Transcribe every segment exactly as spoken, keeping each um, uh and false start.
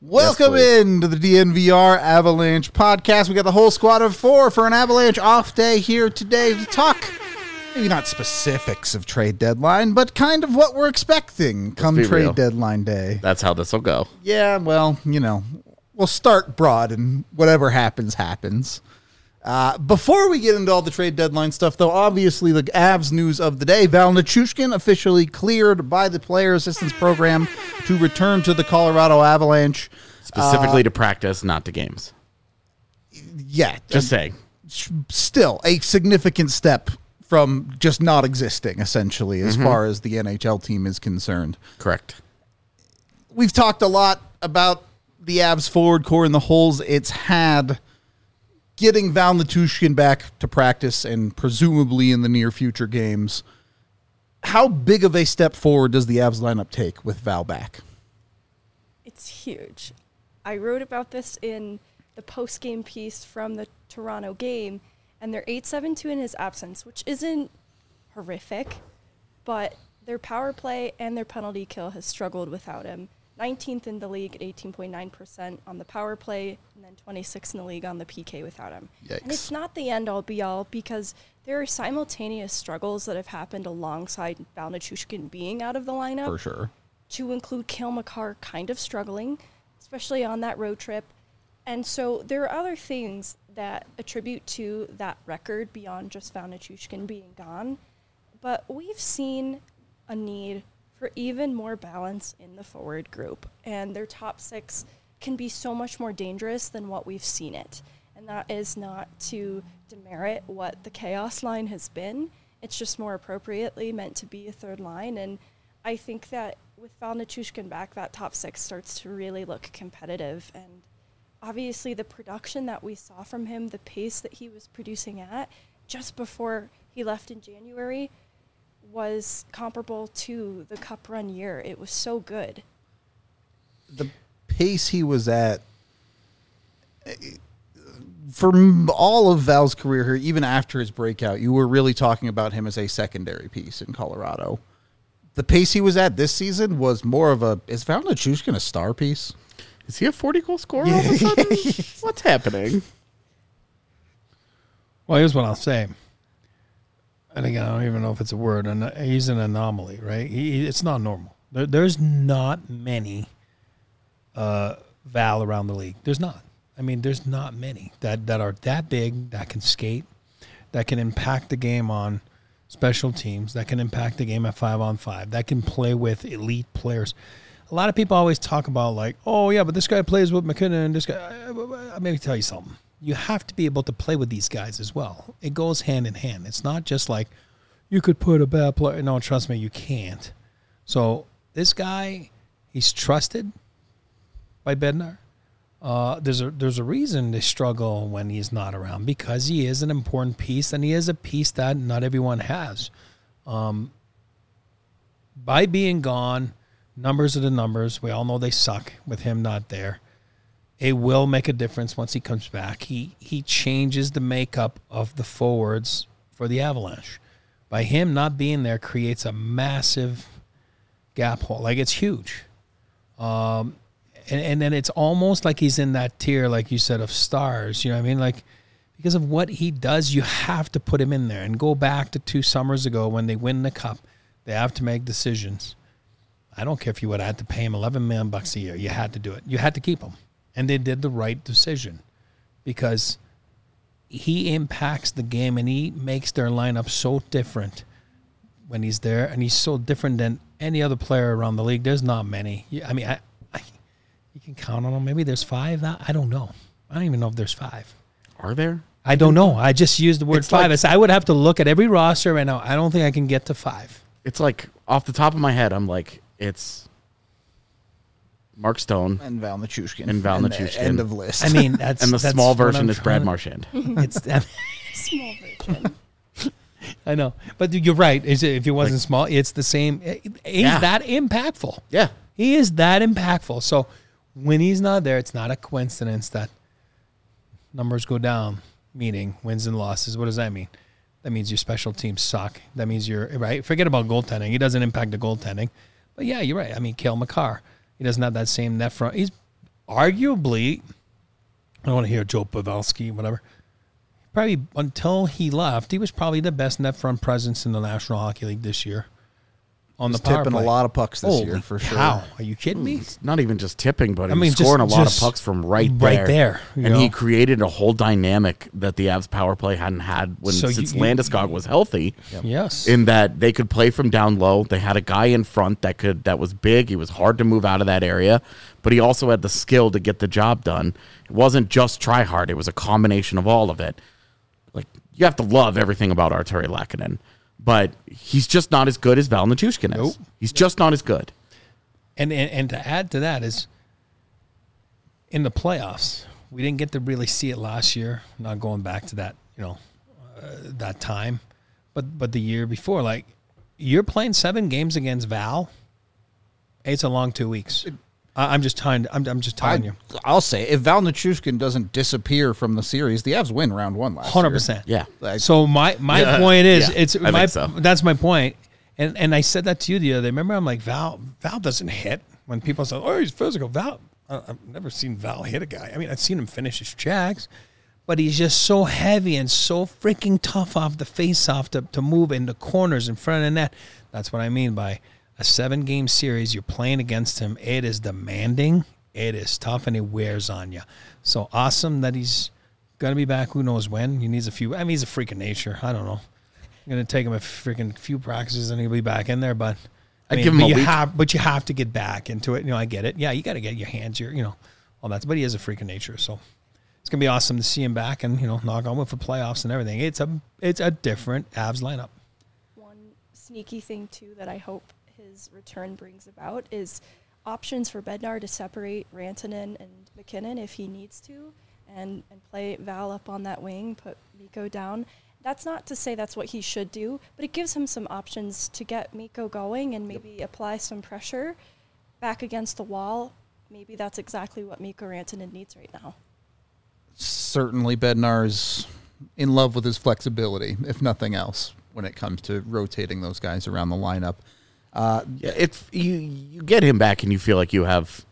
Welcome yes, into the D N V R Avalanche podcast. We got the whole squad of four for an Avalanche off day here today to talk, maybe not specifics of trade deadline, but kind of what we're expecting come trade real. deadline day. That's how this will go. Yeah, well, you know, we'll start broad and whatever happens, happens. Uh, before we get into all the trade deadline stuff, though, obviously the Avs news of the day, Val Nichushkin officially cleared by the Player Assistance Program to return to the Colorado Avalanche. Specifically uh, to practice, not to games. Yeah. Just saying. Still a significant step from just not existing, essentially, as Mm-hmm. far as the N H L team is concerned. Correct. We've talked a lot about the Avs forward core and the holes it's had. Getting Val Nichushkin back to practice and presumably in the near future games, how big of a step forward does the Avs lineup take with Val back? It's huge. I wrote about this in the post-game piece from the Toronto game, and they're eight seven two in his absence, which isn't horrific, but their power play and their penalty kill has struggled without him. nineteenth in the league at eighteen point nine percent on the power play, and then twenty-sixth in the league on the P K without him. Yikes. And it's not the end-all, be-all, because there are simultaneous struggles that have happened alongside Val Nichushkin being out of the lineup. For sure. To include Cale Makar kind of struggling, especially on that road trip. And so there are other things that attribute to that record beyond just Val Nichushkin being gone. But we've seen a need for even more balance in the forward group. And their top six can be so much more dangerous than what we've seen it. And that is not to demerit what the Chaos line has been. It's just more appropriately meant to be a third line. And I think that with Val Nichushkin back, that top six starts to really look competitive. And obviously the production that we saw from him, the pace that he was producing at just before he left in January, was comparable to the Cup run year. It was so good. The pace he was at, for all of Val's career here, even after his breakout, you were really talking about him as a secondary piece in Colorado. The pace he was at this season was more of a, is Val Nichushkin a star piece? Is he a forty-goal scorer all of a sudden? What's happening? Well, here's what I'll say. And again, I don't even know if it's a word. And he's an anomaly, right? He, it's not normal. There, there's not many uh, Val around the league. There's not. I mean, there's not many that, that are that big, that can skate, that can impact the game on special teams, that can impact the game at five on five, that can play with elite players. A lot of people always talk about like, oh, yeah, but this guy plays with McKinnon and this guy. Let me tell you something. You have to be able to play with these guys as well. It goes hand in hand. It's not just like you could put a bad player. No, trust me, you can't. So this guy, he's trusted by Bednar. Uh, there's a there's a reason they struggle when he's not around, because he is an important piece, and he is a piece that not everyone has. Um, by being gone, numbers are the numbers. We all know they suck with him not there. It will make a difference once he comes back. He he changes the makeup of the forwards for the Avalanche. By him not being there creates a massive gap hole. Like, it's huge. Um, and, and then it's almost like he's in that tier, like you said, of stars. You know what I mean? Like, because of what he does, you have to put him in there. And go back to two summers ago when they win the Cup. They have to make decisions. I don't care if you would have had to pay him eleven million bucks a year. You had to do it. You had to keep him. And they did the right decision, because he impacts the game and he makes their lineup so different when he's there. And he's so different than any other player around the league. There's not many. I mean, I, I, you can count on them. Maybe there's five. I don't know. I don't even know if there's five. Are there? I don't know. I just used the word It's five. like- I said I would have to look at every roster right now. I don't think I can get to five. It's like, off the top of my head, I'm like, it's Mark Stone And Val Nichushkin. And Val the Nichushkin. End of list. I mean, that's and the that's small what version I'm is Brad trying- Marchand. It's. Small version. I know, but you're right. Is it, if he wasn't Like- small, it's the same. He's Yeah. that impactful. Yeah. He is that impactful. So when he's not there, it's not a coincidence that numbers go down, meaning wins and losses. What does that mean? That means your special teams suck. That means you're, right? Forget about goaltending. He doesn't impact the goaltending. But yeah, you're right. I mean, Cale Makar, he doesn't have that same net front. He's arguably, I don't want to hear Joe Pavelski, whatever. Probably until he left, he was probably the best net front presence in the National Hockey League this year. On He's the power tipping play. a lot of pucks this Holy year for sure. cow. Are you kidding me? It's not even just tipping, but he I mean, was scoring just- a lot just of pucks from right there. right there, you And know? he created a whole dynamic that the Avs power play hadn't had when So you- since you- Landeskog was healthy. Yes. In that they could play from down low. They had a guy in front that could that was big. He was hard to move out of that area, but he also had the skill to get the job done. It wasn't just try hard. It was a combination of all of it. Like, you have to love everything about Arturi Lehkonen, but he's just not as good as Val Nichushkin is. Nope. He's just not as good. And, and and to add to that is in the playoffs, we didn't get to really see it last year. Not going back to that, you know, uh, that time, but but the year before, like you're playing seven games against Val. It's a long two weeks. I, I'm just telling. I'm I'm just telling I, you, I'll say if Val Nichushkin doesn't disappear from the series, the Avs win round one last hundred year. percent. Yeah. Like, So my my Yeah. point is, Yeah, it's I my think so. that's my point. And and I said that to you the other day. Remember, I'm like Val. Val doesn't hit when people say, "Oh, he's physical." Val, I- I've never seen Val hit a guy. I mean, I've seen him finish his checks, but he's just so heavy and so freaking tough off the face-off to to move in the corners in front of the net. That's what I mean by a seven-game series. You're playing against him. It is demanding. It is tough, and it wears on you. So awesome that he's gonna be back. Who knows when? He needs a few. I mean, he's a freak of nature. I don't know. I'm gonna take him a freaking few practices and he'll be back in there. But I I'd mean, give him but a you week. have, but you have to get back into it. You know, I get it. Yeah, you got to get your hands, your, you know, all that. But he is a freak of nature, so it's gonna be awesome to see him back and you know, knock on wood for playoffs and everything. It's a, it's a different Avs lineup. One sneaky thing too that I hope his return brings about is options for Bednar to separate Rantanen and McKinnon if he needs to, and and play Val up on that wing, put Mikko down. That's not to say that's what he should do, but it gives him some options to get Mikko going and maybe yep. apply some pressure back against the wall. Maybe that's exactly what Mikko Rantanen needs right now. Certainly, Bednar's in love with his flexibility, if nothing else, when it comes to rotating those guys around the lineup. Uh, Yeah, it's you. You get him back, and you feel like you have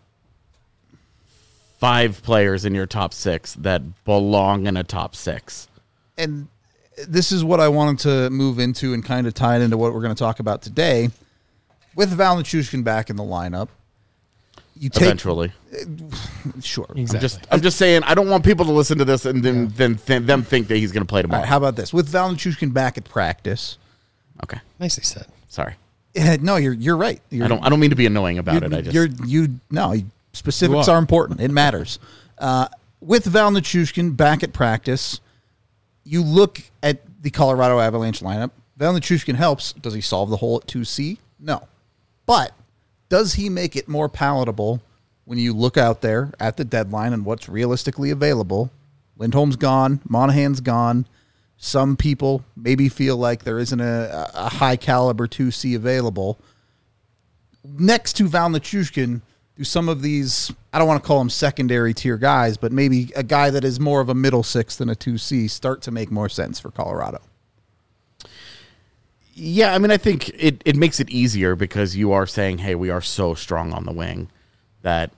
five players in your top six that belong in a top six. and this is what I wanted to move into and kind of tie it into what we're going to talk about today. With Val Nichushkin back in the lineup, you take Eventually, sure. Exactly. I'm just I'm just saying I don't want people to listen to this and then then th- them think that he's going to play All tomorrow. right, how about this? With Val Nichushkin back at practice, Okay, Nicely said. sorry. eh, no, you're you're right. You're, I don't I don't mean to be annoying about you're, it. I just you're you no specifics You are. are. important. It matters. Uh, with Val Nichushkin back at practice, you look at the Colorado Avalanche lineup. Val Nichushkin helps. Does he solve the hole at two C? No. But does he make it more palatable when you look out there at the deadline and what's realistically available? Lindholm's gone. Monahan's gone. Some people maybe feel like there isn't a, a high caliber two C available. Next to Val Nichushkin, do some of these, I don't want to call them secondary tier guys, but maybe a guy that is more of a middle six than a two C start to make more sense for Colorado? Yeah, I mean, I think it, it makes it easier because you are saying, hey, we are so strong on the wing that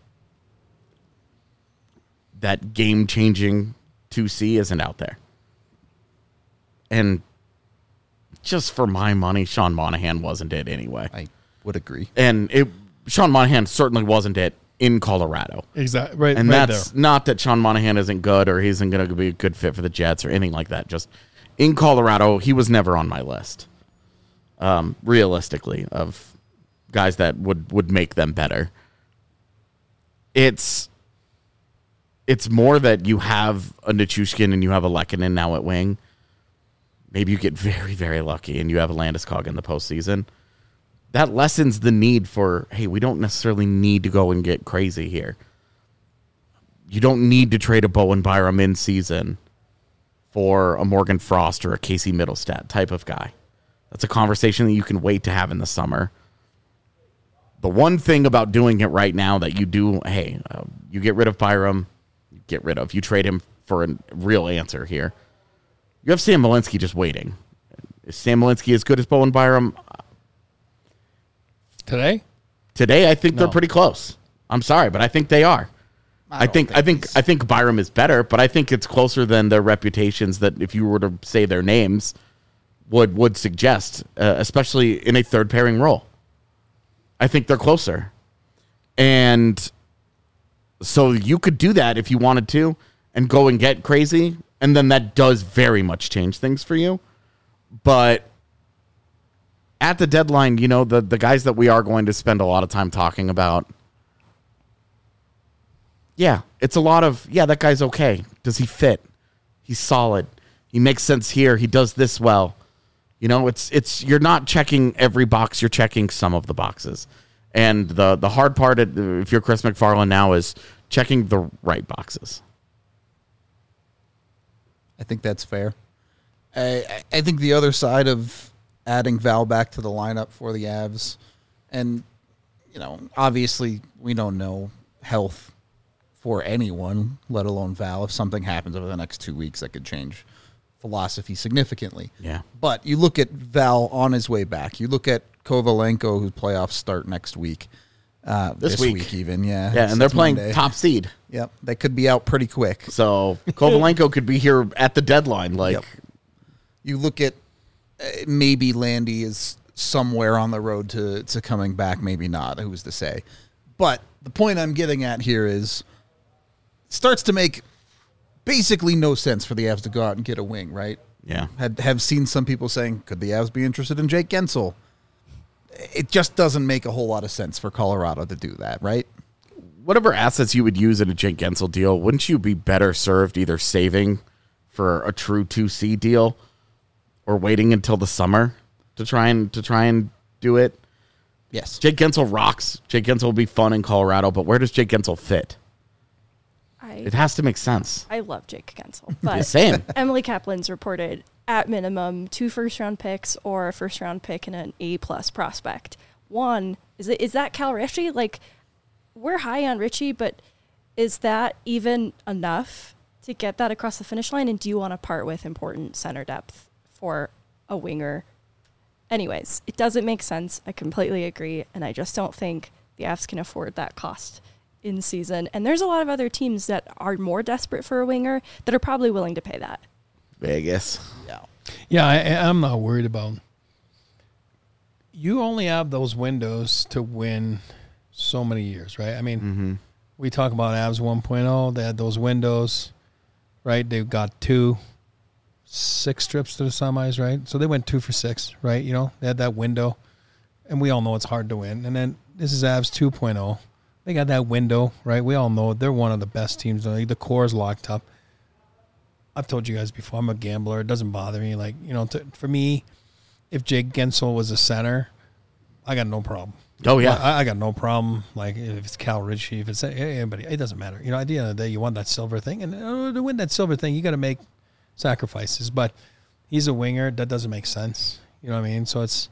that game-changing two C isn't out there. And just for my money, Sean Monahan wasn't it anyway. I would agree. And it Sean Monahan certainly wasn't it in Colorado. Exactly. Right. And right that's there. not that Sean Monahan isn't good or he isn't going to be a good fit for the Jets or anything like that. Just in Colorado, he was never on my list. Um, realistically, of guys that would, would make them better. It's it's more that you have a Nichushkin and you have a Lehkonen now at wing. Maybe you get very, very lucky and you have a Landeskog in the postseason. That lessens the need for, hey, we don't necessarily need to go and get crazy here. You don't need to trade a Bowen Byram in season for a Morgan Frost or a Casey Middlestat type of guy. That's a conversation that you can wait to have in the summer. The one thing about doing it right now that you do, hey, uh, you get rid of Byram, you get rid of, you trade him for a real answer here. You have Sam Malinsky just waiting. Is Sam Malinsky as good as Bowen Byram? Today? Today, I think they're No. pretty close. I'm sorry, but I think they are. I, I think, think I think I think Byram is better, but I think it's closer than their reputations that if you were to say their names would would suggest, uh, especially in a third pairing role. I think they're closer. And so you could do that if you wanted to and go and get crazy, and then that does very much change things for you. But at the deadline, you know, the, the guys that we are going to spend a lot of time talking about, yeah, it's a lot of, yeah, that guy's okay. Does he fit? He's solid. He makes sense here. He does this well. You know, it's it's you're not checking every box. You're checking some of the boxes. And the, the hard part, if you're Chris McFarland now, is checking the right boxes. I think that's fair. I, I think the other side of adding Val back to the lineup for the Avs, and, you know, obviously we don't know health for anyone, let alone Val. If something happens over the next two weeks, that could change philosophy significantly. Yeah. But you look at Val on his way back. You look at Kovalenko, whose playoffs start next week. Uh, this, this week. week. even, yeah. Yeah, and they're playing Monday. top seed. Yep, they could be out pretty quick. So Kovalenko could be here at the deadline. Like, Yep. You look at uh, maybe Landy is somewhere on the road to, to coming back, maybe not. Who's to say? But the point I'm getting at here is it starts to make basically no sense for the Avs to go out and get a wing, right? yeah. Had have seen some people saying, could the Avs be interested in Jake Gensel? It just doesn't make a whole lot of sense for Colorado to do that, right? Whatever assets you would use in a Jake Gensel deal, wouldn't you be better served either saving for a true two C deal or waiting until the summer to try and to try and do it? Yes. Jake Gensel rocks. Jake Gensel will be fun in Colorado, but where does Jake Gensel fit? I It has to make sense. I love Jake Gensel, but Same. Emily Kaplan's reported at minimum two first round picks or a first round pick and an A plus prospect. One is it is that Cal Ritchie? Like, we're high on Ritchie, but is that even enough to get that across the finish line? And do you want to part with important center depth for a winger? Anyways, it doesn't make sense. I completely agree, and I just don't think the Avs can afford that cost in season. And there's a lot of other teams that are more desperate for a winger that are probably willing to pay that. Vegas. Yeah. Yeah, I, I'm not worried about. You only have those windows to win so many years, right? I mean, Mm-hmm. we talk about Avs one point oh. They had those windows, right? They've got two, six trips to the semis, right? So they went two for six, right? You know, they had that window, and we all know it's hard to win. And then this is Avs two point oh. They got that window, right? We all know they're one of the best teams in the league. The core is locked up. I've told you guys before, I'm a gambler. It doesn't bother me. Like, you know, to, for me, if Jake Gensel was a center, I got no problem. Oh, yeah. I, I got no problem. Like, if it's Cal Ritchie, if it's anybody, it doesn't matter. You know, at the end of the day, you want that silver thing. And uh, to win that silver thing, you got to make sacrifices. But he's a winger. That doesn't make sense. You know what I mean? So it's,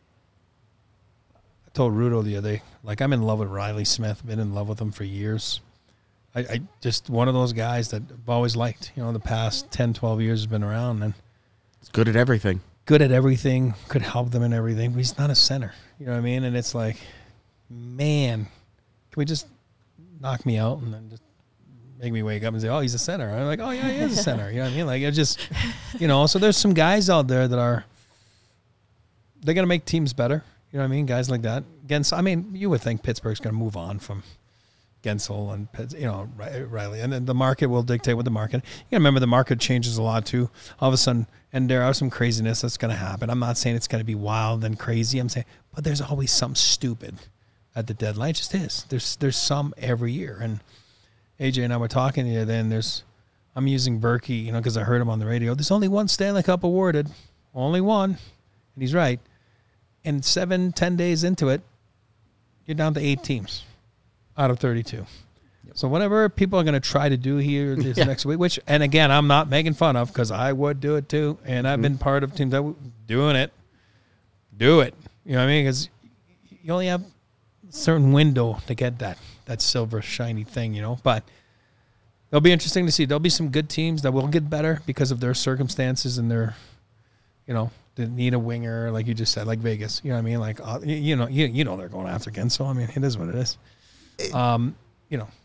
I told Rudo the other day, like, I'm in love with Riley Smith. Been in love with him for years. I, I just one of those guys that I've always liked. You know, the past ten, twelve years has been around. And It's good at everything. good at everything, could help them in everything, but he's not a center. You know what I mean? And it's like, man, can we just knock me out and then just make me wake up and say, oh, he's a center. I'm like, oh, yeah, he is a center. You know what I mean? Like, it's just, you know, so there's some guys out there that are, they're going to make teams better. You know what I mean? Guys like that. Gensel, I mean, you would think Pittsburgh's going to move on from Gensel and, you know, Riley. And then the market will dictate what the market. You got to remember the market changes a lot too. All of a sudden, and there are some craziness that's going to happen. I'm not saying it's going to be wild and crazy. I'm saying, but there's always something stupid at the deadline. It just is. There's there's some every year. And A J and I were talking the other day, and there's, I'm using Berkey, you know, because I heard him on the radio. There's only one Stanley Cup awarded. Only one. And he's right. And seven, ten days into it, you're down to eight teams out of thirty-two. Yep. So whatever people are going to try to do here this yeah. next week, which, and again, I'm not making fun of because I would do it too. And I've mm-hmm. been part of teams that were doing it. Do it. You know what I mean? Because you only have a certain window to get that, that silver shiny thing, you know. But it'll be interesting to see. There'll be some good teams that will get better because of their circumstances and their, you know, they need a winger, like you just said, like Vegas. You know what I mean? Like, uh, you, you know, you, you know they're going after again. So, I mean, it is what it is. Um, you know,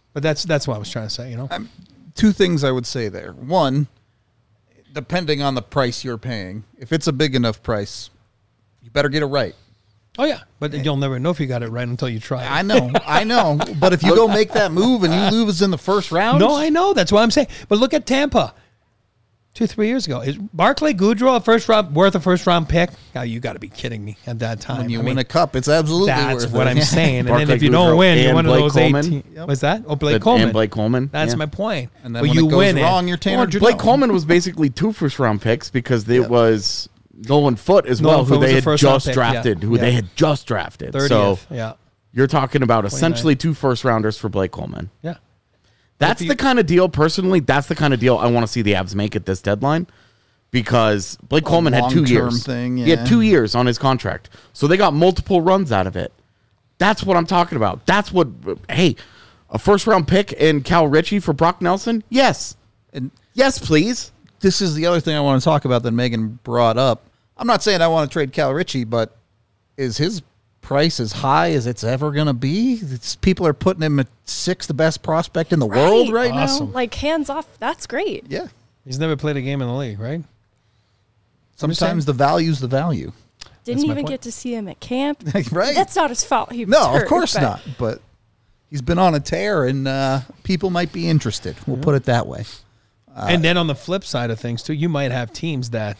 But that's that's what I was trying to say, you know? Two things I would say there. One, depending on the price you're paying, if it's a big enough price, you better get it right. Oh, yeah. But you'll never know if you got it right until you try it. I know, I know. But if you go make that move and you lose in the first round. No, I know. That's what I'm saying. But look at Tampa. Two, three years ago. Is Barclay Goodrow a first round worth a first round pick? Oh, you got to be kidding me at that time. When you I win mean, a cup, it's absolutely that's worth what it. I'm saying. And Barclay then if you Goodrow don't win, you're and one of Blake those Coleman. eighteen. Yep. What's that? Oh, Blake And Coleman. Blake Coleman. That's yeah. my point. And then but when you it goes win wrong, it. you're Tanner Well, Jeannot. Blake Coleman was basically two first round picks because it Yep. was Nolan Foote as Nolan well, Foote who was they a had first-round just pick, yeah. drafted, who Yeah. they had just drafted. thirtieth. So yeah. you're talking about essentially two first rounders for Blake Coleman. Yeah. That's If you- the kind of deal, personally, that's the kind of deal I want to see the Avs make at this deadline because Blake Coleman had two long-term years. thing, He yeah. had two years on his contract. So they got multiple runs out of it. That's what I'm talking about. That's what, hey, a first round pick in Cal Ritchie for Brock Nelson? Yes. And Yes, please. this is the other thing I want to talk about that Megan brought up. I'm not saying I want to trade Cal Ritchie, but is his price as high as it's ever going to be? It's, people are putting him at sixth best prospect in the world right Awesome. now. Like hands off, that's great. Yeah. He's never played a game in the league, right? Sometimes the value's the value. Didn't my even point. get to see him at camp. Right? That's not his fault. He was No, hurt, of course but not. But he's been on a tear, and uh, people might be interested. We'll put it that way. and then on the flip side of things, too, you might have teams that,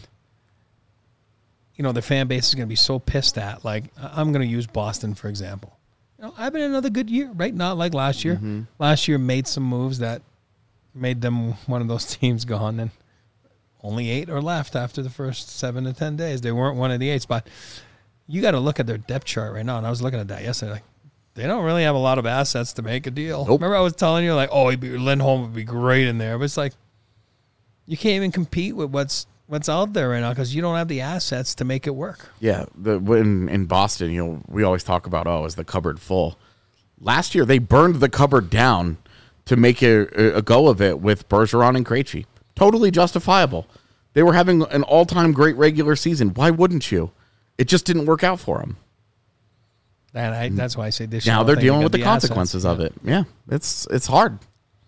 you know, their fan base is going to be so pissed at. Like, I- I'm going to use Boston, for example. You know, I've been another good year, right? Not like last year. Last year made some moves that made them one of those teams gone, and only eight are left after the first seven to ten days. They weren't one of the eights, but you got to look at their depth chart right now. And I was looking at that yesterday. Like, they don't really have a lot of assets to make a deal. Nope. Remember I was telling you, like, oh, he'd be, Lindholm would be great in there. But it's like, you can't even compete with what's what's out there right now because you don't have the assets to make it work. Yeah, the when in Boston, you know, we always talk about, oh, is the cupboard full? Last year, they burned the cupboard down to make a, a go of it with Bergeron and Krejci. Totally justifiable. They were having an all-time great regular season. Why wouldn't you? It just didn't work out for them. And I, that's why I say this year. Now I they're don't think dealing they with got the assets. consequences of it. Yeah, it's it's hard.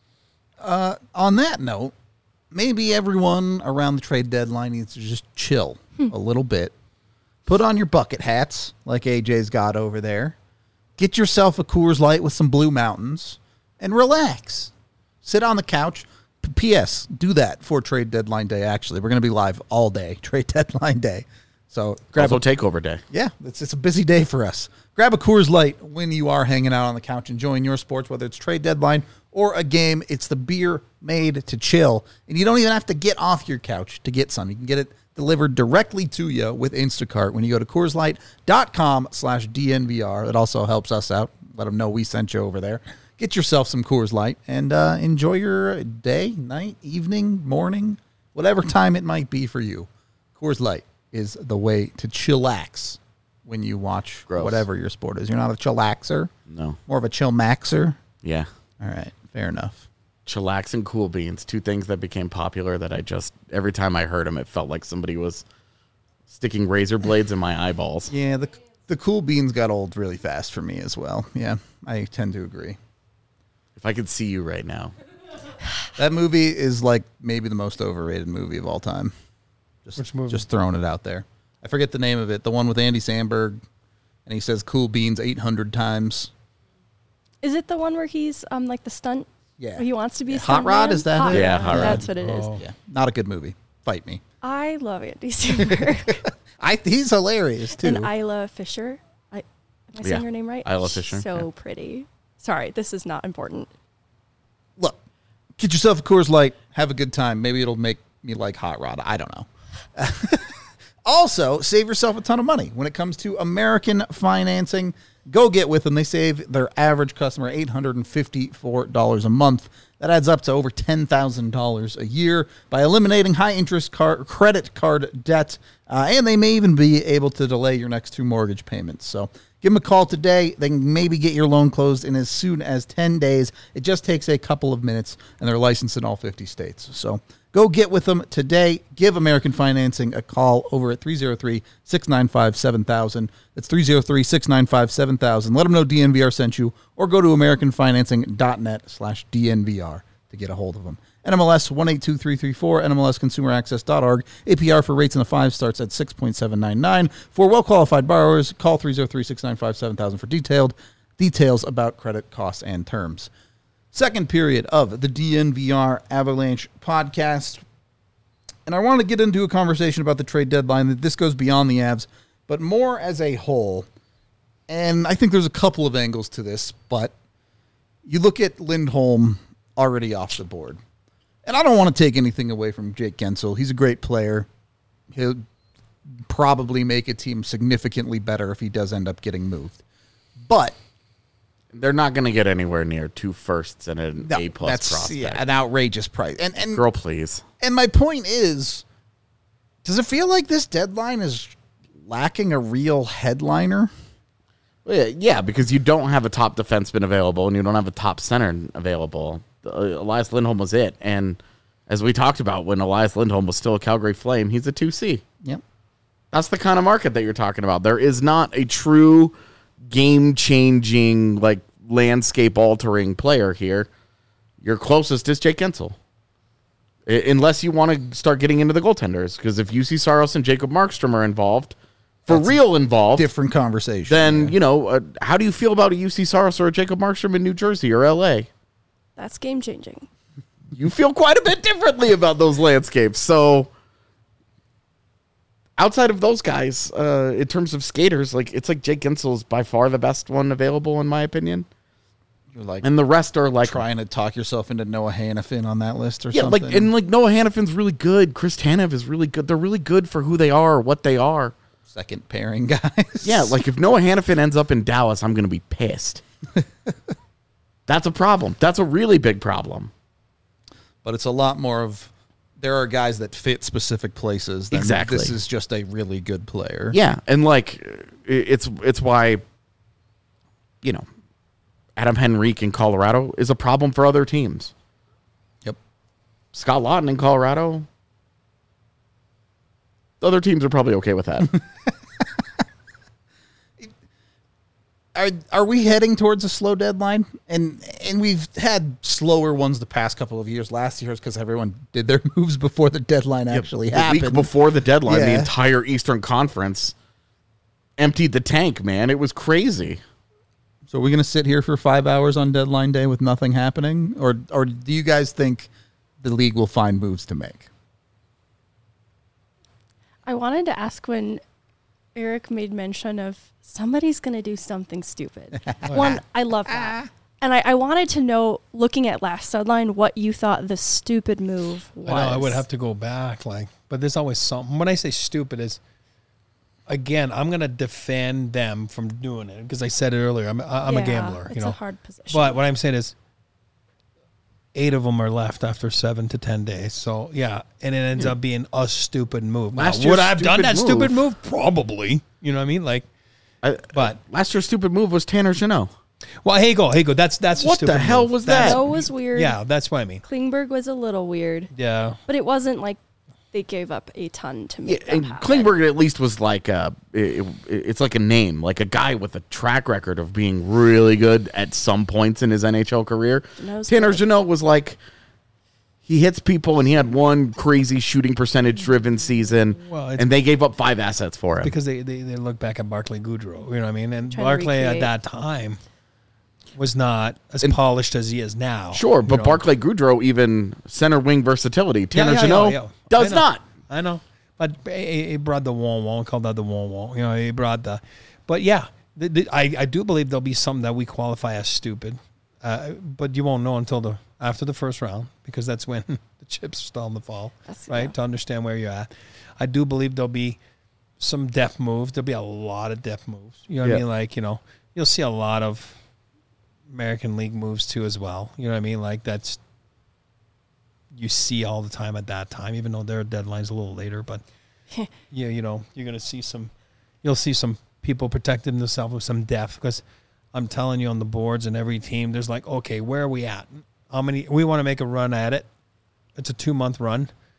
On that note, maybe everyone around the trade deadline needs to just chill a little bit. Put on your bucket hats like A J's got over there. Get yourself a Coors Light with some Blue Mountains and relax. Sit on the couch. P S. Do that for trade deadline day, actually. We're going to be live all day, trade deadline day. So grab Also, a takeover day. Yeah, it's, it's a busy day for us. Grab a Coors Light when you are hanging out on the couch enjoying your sports, whether it's trade deadline or a game. It's the beer made to chill, and you don't even have to get off your couch to get some. You can get it delivered directly to you with Instacart when you go to CoorsLight.com slash DNVR. It also helps us out. Let them know we sent you over there. Get yourself some Coors Light and uh, enjoy your day, night, evening, morning, whatever time it might be for you. Coors Light is the way to chillax when you watch Gross. whatever your sport is. You're not a chillaxer, No. more of a chill maxer. Yeah. All right, fair enough. Chillax and Cool Beans, two things that became popular that I just, every time I heard them, it felt like somebody was sticking razor blades in my eyeballs. Yeah, the the cool beans got old really fast for me as well. Yeah, I tend to agree. If I could see you right now. That movie is like maybe the most overrated movie of all time. Just, Which movie? Just throwing it out there. I forget the name of it. The one with Andy Samberg, and he says "cool beans" eight hundred times. Is it the one where he's um like the stunt? Yeah. Where he wants to be Yeah, a Hot stunt Rod, man? is that it? Yeah, Hot Rod. That's what it is. Oh. Yeah, not a good movie. Fight me. I love Andy Samberg I he's hilarious too. and Isla Fisher. I am I saying Yeah, her name right? Isla She's Fisher, So yeah. pretty. Sorry, this is not important. Look, get yourself a Coors Light. Have a good time. Maybe it'll make me like Hot Rod. I don't know. Also, save yourself a ton of money when it comes to American financing. Go get with them. They save their average customer eight hundred fifty-four dollars a month. That adds up to over ten thousand dollars a year by eliminating high-interest car- credit card debt. Uh, and they may even be able to delay your next two mortgage payments. So give them a call today. They can maybe get your loan closed in as soon as ten days. It just takes a couple of minutes, and they're licensed in all fifty states. So Go get with them today. Give American Financing a call over at three oh three, six nine five, seven thousand. That's three oh three, six nine five, seven thousand. Let them know D N V R sent you, or go to american financing dot net slash D N V R to get a hold of them. N M L S one eight two three three four, N M L S consumer access dot org. A P R for rates in the five starts at six point seven nine nine. For well-qualified borrowers, call three oh three, six nine five, seven thousand for detailed details about credit costs and terms. Second period of the D N V R Avalanche podcast. And I want to get into a conversation about the trade deadline. That this goes beyond the Avs, but more as a whole. And I think there's a couple of angles to this, but you look at Lindholm already off the board. And I don't want to take anything away from Jake Guentzel. He's a great player. He'll probably make a team significantly better if he does end up getting moved. But they're not going to get anywhere near two firsts and an no, A-plus that's prospect. Yeah, an outrageous price. And, and Girl, please. And my point is, does it feel like this deadline is lacking a real headliner? Well, yeah, yeah, because you don't have a top defenseman available and you don't have a top center available. Uh, Elias Lindholm was it. And as we talked about, when Elias Lindholm was still a Calgary Flame, he's a two C. Yep. That's the kind of market that you're talking about. There is not a true game-changing, like, landscape-altering player here. Your closest is Jake Guentzel. I- unless you want to start getting into the goaltenders. Because if U C Saros and Jacob Markstrom are involved, for That's real involved, different conversation. then, yeah. you know, uh, how do you feel about a U C Saros or a Jacob Markstrom in New Jersey or L A? That's game changing. You feel quite a bit differently about those landscapes. So outside of those guys, uh, in terms of skaters, like it's like Jake Guentzel is by far the best one available in my opinion. You're like, And the rest are like trying to talk yourself into Noah Hannafin on that list or yeah, something. like and like Noah Hannafin's really good. Chris Tanev is really good. They're really good for who they are, what they are. Second pairing guys. Yeah, like if Noah Hannafin ends up in Dallas, I'm going to be pissed. That's a problem. That's a really big problem. But it's a lot more of, there are guys that fit specific places. Than Exactly. This is just a really good player. Yeah, and like it's it's why, you know, Adam Henrique in Colorado is a problem for other teams. Yep. Scott Laughton in Colorado, other teams are probably okay with that. Are are we heading towards a slow deadline? And and we've had slower ones the past couple of years. Last year is because everyone did their moves before the deadline actually the happened. week before the deadline, the Yeah. entire Eastern Conference emptied the tank, man. It was crazy. So are we going to sit here for five hours on deadline day with nothing happening? Or or do you guys think the league will find moves to make? I wanted to ask when Eric made mention of somebody's going to do something stupid. One, I love that. And I, I wanted to know, looking at last deadline, what you thought the stupid move was. I know I would have to go back, like, but there's always something. When I say stupid, is again, I'm gonna defend them from doing it because I said it earlier. I'm I'm Yeah, a gambler, It's you know. a hard position. But what I'm saying is, eight of them are left after seven to ten days. So yeah, and it ends up being a stupid move. Now, Last would year's I have done stupid that stupid move- move? Probably. You know what I mean? Like, I, but last year's stupid move was Tanner Jeannot. well, hey go, hey go. That's that's a What stupid the hell move. was That's- that? Joe was weird. Yeah, that's what I mean. Klingberg was a little weird. Yeah. But it wasn't like they gave up a ton to Yeah, make that and happen. Klingberg at least was like a, it, it- it's like a name, like a guy with a track record of being really good at some points in his N H L career. Jeannot's Tanner good. Jeannot was like, he hits people and he had one crazy shooting percentage driven season, Well, it's- and they gave up five assets for him. Because they, they, they look back at Barclay Goodrow, you know what I mean? And Trying to Barclay at recreate. that time was not as And- polished as he is now. Sure, you but know? Barclay Goodrow even center wing versatility. Yeah, Tanner yeah, Jeannot yeah, yeah. does I know. not. I know. But he, he brought the wall wall, called that the wall wall. You know, he brought the. But yeah, the, the, I, I do believe there'll be something that we qualify as stupid. Uh, but you won't know until the after the first round because that's when the chips are still in the fall, That's- right? yeah. To understand where you're at. I do believe there'll be some depth moves. There'll be a lot of depth moves. You know what Yeah. I mean? Like, you know, you'll see a lot of American League moves too as well. You know what I mean? Like that's you see all the time at that time, even though their deadline's a little later. But yeah, you know, you're gonna see some. You'll see some people protecting themselves with some depth because I'm telling you, on the boards and every team, there's like, okay, where are we at? How many? We want to make a run at it. It's a two month run.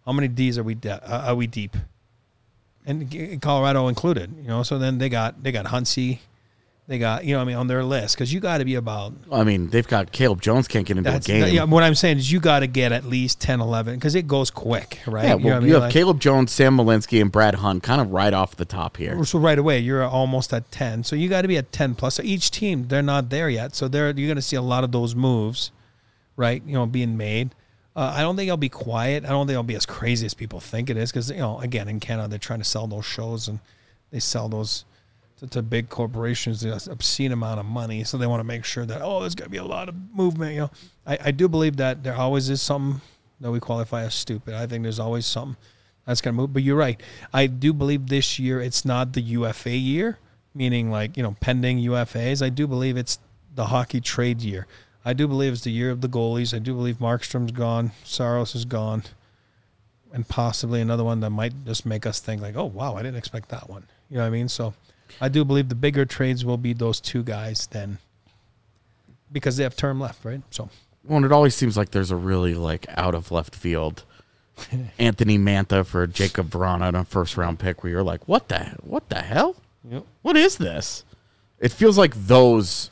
How many D's are we de- uh, are we deep? And G- Colorado included, you know. So then they got they got Huntsy, they got you know what I mean on their list because you got to be about. I mean, they've got Caleb Jones can't get into That's, a game. yeah, what I'm saying is you got to get at least ten, eleven because it goes quick, right? Yeah, you know well, what I you mean? have Like- Caleb Jones, Sam Malinsky, and Brad Hunt kind of right off the top here. So right away, you're almost at ten. So you got to be at ten plus. So each team, they're not there yet. So they're you're going to see a lot of those moves, right? You know, being made. Uh, I don't think I'll be quiet. I don't think I'll be as crazy as people think it is because you know, again, in Canada, they're trying to sell those shows and they sell those to, to big corporations, an obscene amount of money. So they want to make sure that oh, there's going to be a lot of movement. You know, I, I do believe that there always is something that we qualify as stupid. I think there's always something that's going to move. But you're right. I do believe this year it's not the U F A year, meaning like, you know, pending U F As. I do believe it's the hockey trade year. I do believe it's the year of the goalies. I do believe Markstrom's gone. Saros is gone. And possibly another one that might just make us think like, oh, wow, I didn't expect that one. You know what I mean? So I do believe the bigger trades will be those two guys then because they have term left, right? So. Well, and it always seems like there's a really like out of left field Anthony Mantha for Jacob Vrana on a first round pick where you're like, what the what the hell? Yep. What is this? It feels like those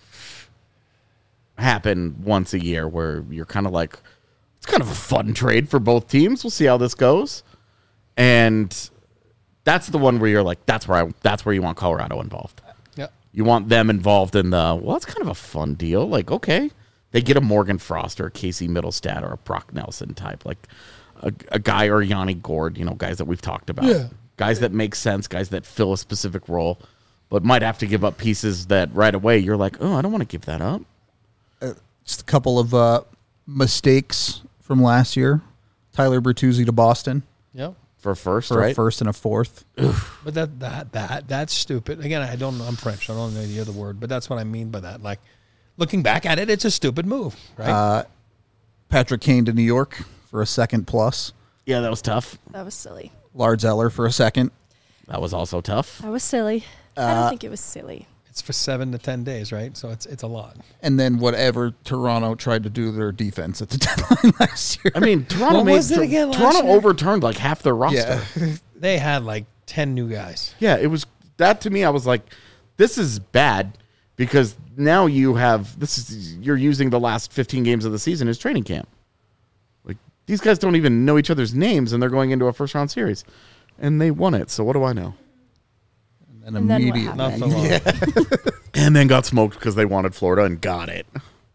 happen once a year where you're kind of like, it's kind of a fun trade for both teams. We'll see how this goes. And that's the one where you're like, that's where I that's where you want Colorado involved. Yep. You want them involved in the, well, it's kind of a fun deal. Like, okay. They get a Morgan Frost or a Casey Middlestad or a Brock Nelson type, like a, a guy or Yanni Gord, you know, guys that we've talked about. Yeah. Guys that make sense, guys that fill a specific role, but might have to give up pieces that right away you're like, oh, I don't want to give that up. Just a couple of uh, mistakes from last year. Tyler Bertuzzi to Boston Yep. For a first, for right? a first and a fourth. But that that that that's stupid. Again, I don't know. I'm French. I don't know the other word, but that's what I mean by that. Like, looking back at it, it's a stupid move, right? Uh, Patrick Kane to New York for a second plus. Yeah, that was tough. That was silly. Lars Eller for a second. That was also tough. That was silly. I Uh, don't think it was silly. It's for seven to ten days, right? So it's it's a lot. And then whatever Toronto tried to do their defense at the deadline last year. I mean, Toronto What made was it again last Toronto year? overturned like half their roster. Yeah. They had like ten new guys. Yeah, it was that to me. I was like, this is bad because now you have this is you're using the last fifteen games of the season as training camp. Like these guys don't even know each other's names, and they're going into a first round series, and they won it. So what do I know? And And then what immediately. Not for long. Yeah. And then got smoked because they wanted Florida and got it.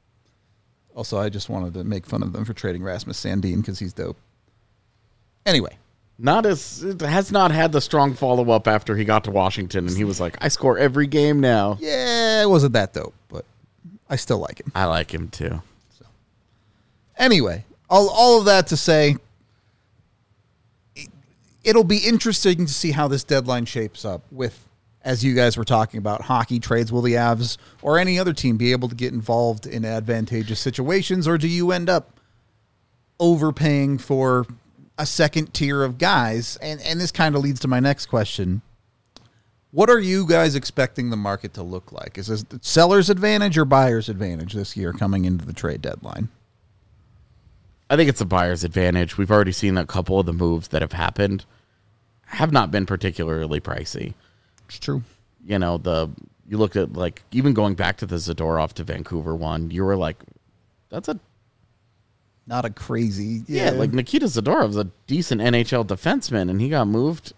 Also, I just wanted to make fun of them for trading Rasmus Sandin because he's dope. Anyway. Not as it has not had the strong follow up after he got to Washington, and he was like, I score every game now. Yeah, it wasn't that dope, but I still like him. I like him too. Anyway, all, all of that to say, it, it'll be interesting to see how this deadline shapes up with, as you guys were talking about, hockey trades. Will the Avs or any other team be able to get involved in advantageous situations, or do you end up overpaying for a second tier of guys? And, and this kind of leads to my next question. What are you guys expecting the market to look like? Is this seller's advantage or buyer's advantage this year coming into the trade deadline? I think it's a buyer's advantage. We've already seen a couple of the moves that have happened have not been particularly pricey. It's true. You know, the you look at like even going back to the Zadorov to Vancouver one, you were like, that's a Not a crazy. yeah, like Nikita Zadorov's a decent N H L defenseman, and he got moved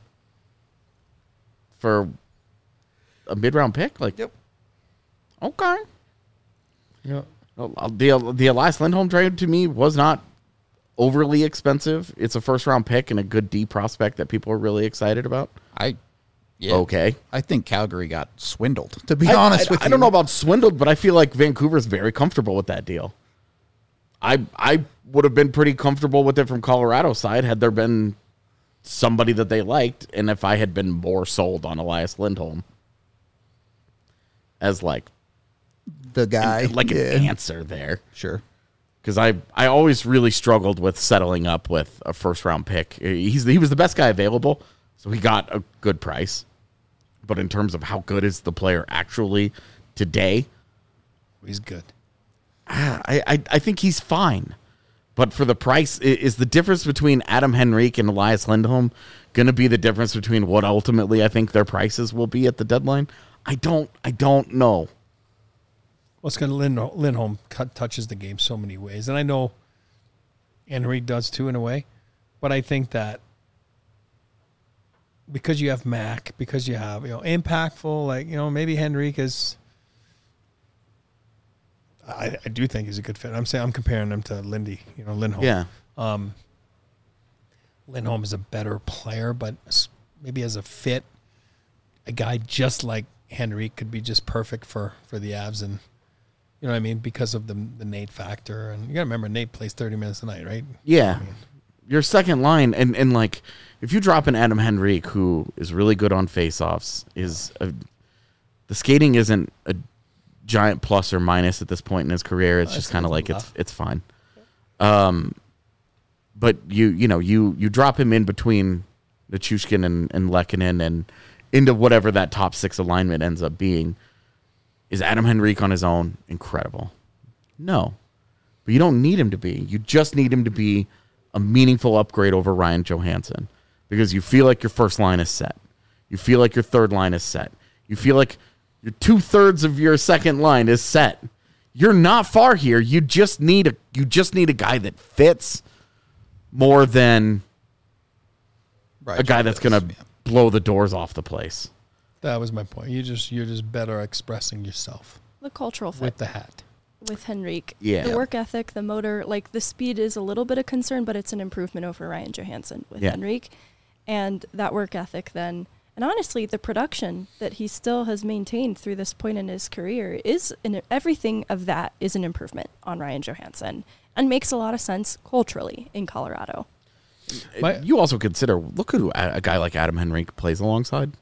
for a mid round pick. Like, Yep. okay. Yeah. Well, The the Elias Lindholm trade to me was not overly expensive. It's a first round pick and a good D prospect that people are really excited about. I, yeah. Okay. I think Calgary got swindled, to be I, honest I, with I you. don't know about swindled, but I feel like Vancouver's very comfortable with that deal. I I would have been pretty comfortable with it from Colorado's side had there been somebody that they liked, and if I had been more sold on Elias Lindholm as like the guy. like yeah. an answer there. Sure. Because I, I always really struggled with settling up with a first round pick. He's he was the best guy available, so he got a good price. But in terms of how good is the player actually today, He's good. I, I, I think he's fine. But for the price, i- is the difference between Adam Henrique and Elias Lindholm going to be the difference between what ultimately I think their prices will be at the deadline? I don't. I don't know. What's going to Lind- Lindholm cut, touches the game so many ways, and I know Henrique does too in a way, but I think that because you have Mac, because you have, you know, impactful, like, you know, maybe Henrique is. I, I do think he's a good fit. I'm saying I'm comparing him to Lindy, you know, Lindholm. Yeah. Um, Lindholm is a better player, but s- maybe as a fit, a guy just like Henrique could be just perfect for, for the Avs, and you know what I mean, because of the the Nate factor. And you got to remember, Nate plays thirty minutes a night, right? Yeah. Your second line, and, and like, if you drop an Adam Henrique, who is really good on faceoffs, is a, the skating isn't a giant plus or minus at this point in his career. It's Uh, just it's kind of a like little it's it's fine. Um, but you you know you you drop him in between Nichushkin and and Lehkonen and into whatever that top six alignment ends up being. Is Adam Henrique on his own incredible? No, but you don't need him to be. You just need him to be a meaningful upgrade over Ryan Johansson, because you feel like your first line is set. You feel like your third line is set. You feel like your two-thirds of your second line is set. You're not far here. You just need a you just need a guy that fits more than Right, a guy that's does, going to yeah. blow the doors off the place. That was my point. You just you're just better expressing yourself The cultural fit with the hat. with Henrique. Yeah. The work ethic, the motor, like the speed is a little bit of concern, but it's an improvement over Ryan Johansson with Yeah. Henrique. And that work ethic then, and honestly, the production that he still has maintained through this point in his career is, an, everything of that is an improvement on Ryan Johansson and makes a lot of sense culturally in Colorado. My- you also consider, look who a, a guy like Adam Henrique plays alongside.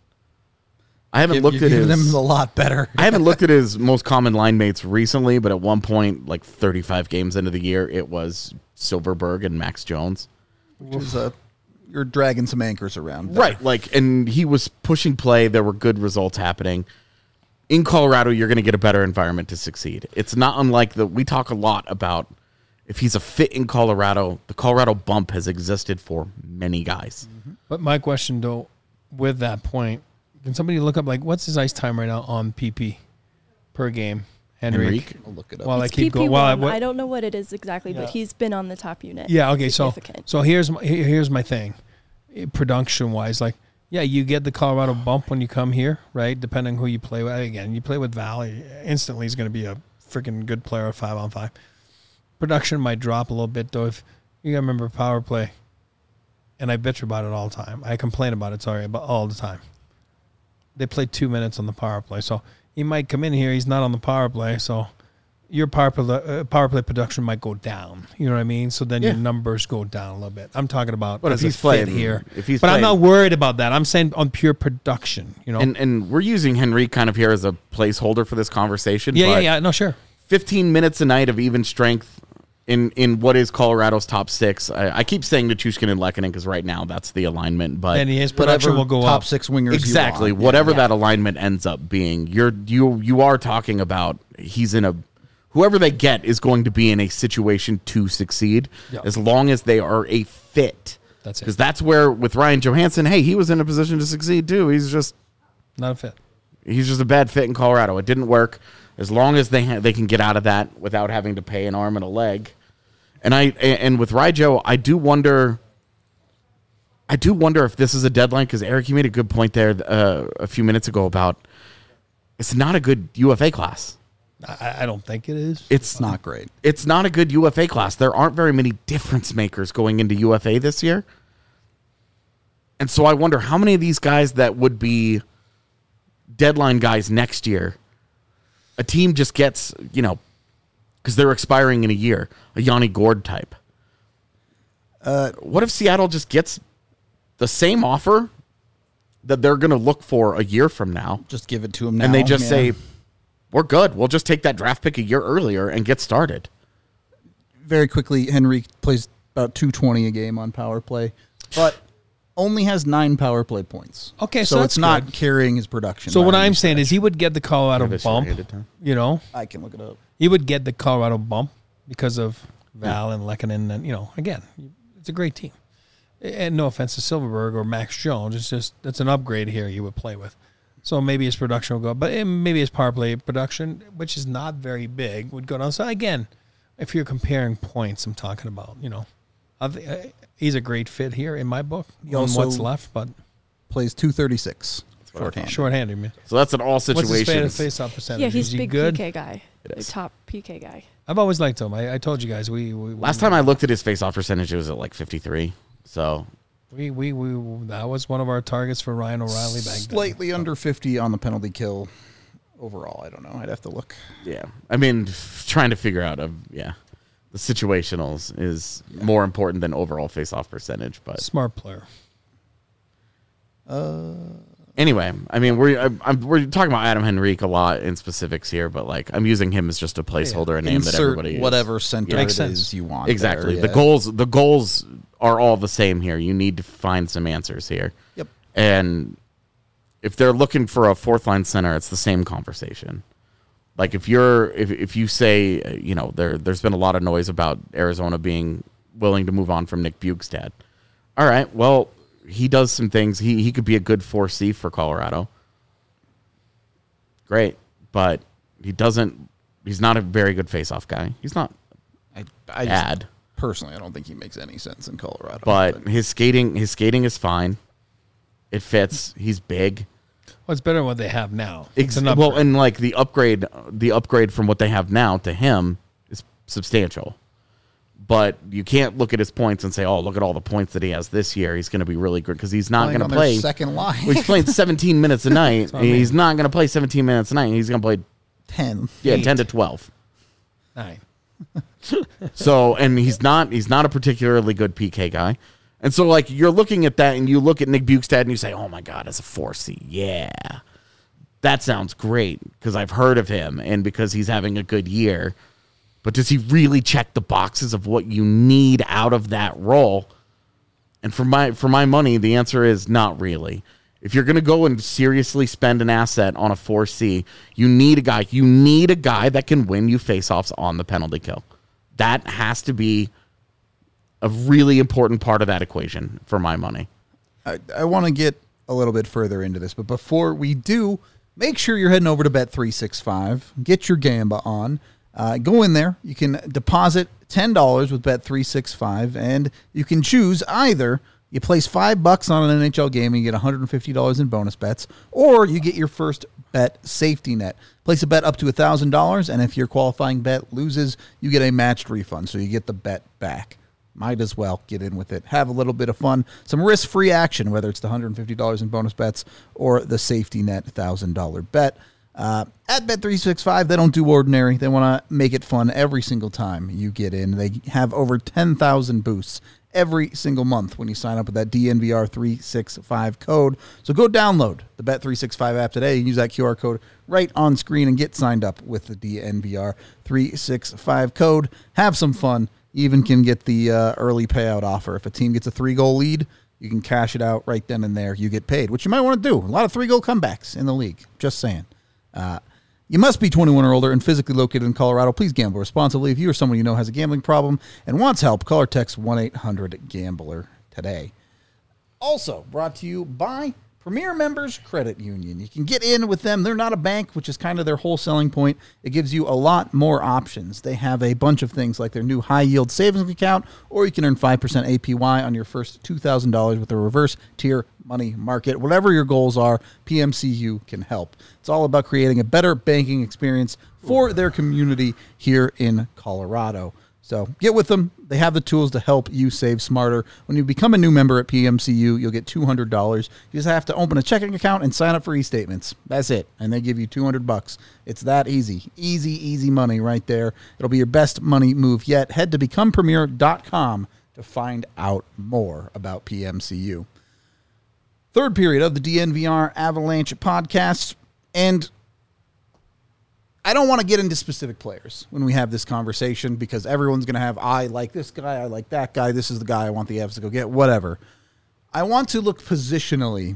I haven't You're looked at giving his him a lot better. I haven't looked at his most common line mates recently, but at one point, like thirty-five games into the year, it was Silverberg and Max Jones. Which is a, you're dragging some anchors around. there. Right. Like, and he was pushing play. There were good results happening. In Colorado, you're going to get a better environment to succeed. It's not unlike the, we talk a lot about if he's a fit in Colorado, the Colorado bump has existed for many guys. But my question, though, with that point, can somebody look up, like, what's his ice time right now on P P per game? Henrique. Henrique? I'll look it up. While I It's keep P P one. going, while I, what- I don't know what it is exactly, Yeah. but he's been on the top unit. yeah, okay. So, Significant. so here's my here- here's my thing, production wise, like, yeah, you get the Colorado bump when you come here, right? Depending who you play with. Again, you play with Valley, instantly he's going to be a freaking good player at five on five. Production might drop a little bit though. If you gotta remember power play, and I bitch about it all the time. I complain about it, sorry, but all the time. They play two minutes on the power play, so he might come in here. He's not on the power play, so your power play, uh, power play production might go down. You know what I mean? So then Yeah. your numbers go down a little bit. I'm talking about But as if he's a fit playing here, if he's but I'm playing- not worried about that. I'm saying on pure production. You know? And and we're using Henrique kind of here as a placeholder for this conversation. yeah, yeah, but yeah. No, sure. fifteen minutes a night of even strength in, in what is Colorado's top six. I, I keep saying Nichushkin and Lehkonen because right now that's the alignment. But And his production Whatever will go top up. six wingers. exactly You want. whatever Yeah. that alignment ends up being, you're you you are talking about he's in a whoever they get is going to be in a situation to succeed Yeah. as long as they are a fit. That's it. Because that's where with Ryan Johansson, hey, he was in a position to succeed too. He's just Not a fit. he's just a bad fit in Colorado. It didn't work. As long as they ha- they can get out of that without having to pay an arm and a leg. And I and with Ryjo, I do wonder. I do wonder if this is a deadline because Eric, you made a good point there uh, a few minutes ago about it's not a good U F A class. I, I don't think it is. It's It's not great. It's not a good U F A class. There aren't very many difference makers going into U F A this year. And so I wonder how many of these guys that would be deadline guys next year, a team just gets, you know, because they're expiring in a year, a Yanni Gord type. Uh, what if Seattle just gets the same offer that they're going to look for a year from now, Just give it to him now. and they just yeah. say, we're good. We'll just take that draft pick a year earlier and get started. very quickly, Henry plays about two twenty a game on power play, but only has nine power play points. Okay, so so that's it's not good. carrying his production. So by what any I'm saying stretch. is he would get the Colorado Have a bump. short-handed time. You know, I can look it up. he would get the Colorado bump because of Val and Lehkonen, and you know, again, it's a great team. And no offense to Silverberg or Max Jones, it's just that's an upgrade here you would play with. So maybe his production will go, but maybe his power play production, which is not very big, would go down. So again, if you're comparing points, I'm talking about, you know, I th- uh, he's a great fit here in my book. He on also what's left, but plays two thirty-six shorthand. shorthanded, man. So that's in all What's his situations. face-off percentage? Yeah, he's is he big good? P K guy. It The is. top P K guy. I've always liked him. I, I told you guys we, we Last we, time I looked at his face-off percentage, it was at like fifty-three. So we, we we that was one of our targets for Ryan O'Reilly back then. Slightly under fifty on the penalty kill overall. I don't know. I'd have to look. yeah, I mean, trying to figure out a yeah, the situationals is more important than overall face-off percentage. But Smart player. Uh, anyway, I mean, we're I'm, I'm, we're talking about Adam Henrique a lot in specifics here, but like I'm using him as just a placeholder, a name that insert everybody is. whatever center Yeah. it Makes sense. is you want. Exactly. there, The yeah. goals the goals are all the same here. You need to find some answers here. Yep. And if they're looking for a fourth line center, it's the same conversation. Like if you're if if you say, uh, you know, there there's been a lot of noise about Arizona being willing to move on from Nick Bjugstad. All right, well, he does some things. He he could be a good four C for Colorado. Great, but he doesn't he's not a very good face-off guy. He's not I, I just, bad. personally, I don't think he makes any sense in Colorado. But his skating his skating is fine. It fits. He's big. Well, it's better than what they have now. Ex- It's an well, upgrade. and like the upgrade, the upgrade from what they have now to him is substantial. But you can't look at his points and say, "Oh, look at all the points that he has this year. He's going to be really good," because he's not Playing going to on their play. second line. Well, he's playing seventeen minutes a night. what I mean. He's not going to play seventeen minutes a night. He's going to play ten. yeah Eight. ten to twelve. Nine. So, and he's not he's not a particularly good P K guy. And so, like, you're looking at that and you look at Nick Bjugstad and you say, oh, my God, as a four C, yeah. That sounds great because I've heard of him and because he's having a good year. But does he really check the boxes of what you need out of that role? And for my for my money, the answer is not really. If you're going to go and seriously spend an asset on a four C, you need a guy. You need a guy that can win you faceoffs on the penalty kill. That has to be a really important part of that equation for my money. I, I want to get a little bit further into this, but before we do, make sure you're heading over to Bet three sixty-five. Get your Gamba on. Uh, go in there. You can deposit ten dollars with Bet three sixty-five, and you can choose either you place five bucks on an N H L game and you get one hundred fifty dollars in bonus bets, or you get your first bet safety net. Place a bet up to one thousand dollars, and if your qualifying bet loses, you get a matched refund, so you get the bet back. Might as well get in with it. Have a little bit of fun. Some risk-free action, whether it's the one hundred fifty dollars in bonus bets or the safety net one thousand dollars bet. Uh, at Bet three sixty-five, they don't do ordinary. They want to make it fun every single time you get in. They have over ten thousand boosts every single month when you sign up with that D N V R three sixty-five code. So go download the Bet three sixty-five app today and use that Q R code right on screen and get signed up with the D N V R three sixty-five code. Have some fun. You even can get the uh, early payout offer. If a team gets a three-goal lead, you can cash it out right then and there. You get paid, which you might want to do. A lot of three-goal comebacks in the league. Just saying. Uh, you must be twenty-one or older and physically located in Colorado. Please gamble responsibly. If you or someone you know has a gambling problem and wants help, call or text one eight hundred gambler today. Also brought to you by Premier Members Credit Union. You can get in with them. They're not a bank, which is kind of their whole selling point. It gives you a lot more options. They have a bunch of things like their new high-yield savings account, or you can earn five percent A P Y on your first two thousand dollars with the reverse tier money market. Whatever your goals are, P M C U can help. It's all about creating a better banking experience for their community here in Colorado. So get with them. They have the tools to help you save smarter. When you become a new member at P M C U, you'll get two hundred dollars. You just have to open a checking account and sign up for e-statements. That's it. And they give you two hundred bucks. It's that easy. Easy, easy money right there. It'll be your best money move yet. Head to become premier dot com to find out more about P M C U. Third period of the D N V R Avalanche podcast. And I don't want to get into specific players when we have this conversation because everyone's going to have, I like this guy, I like that guy, this is the guy I want the Avs to go get, whatever. I want to look positionally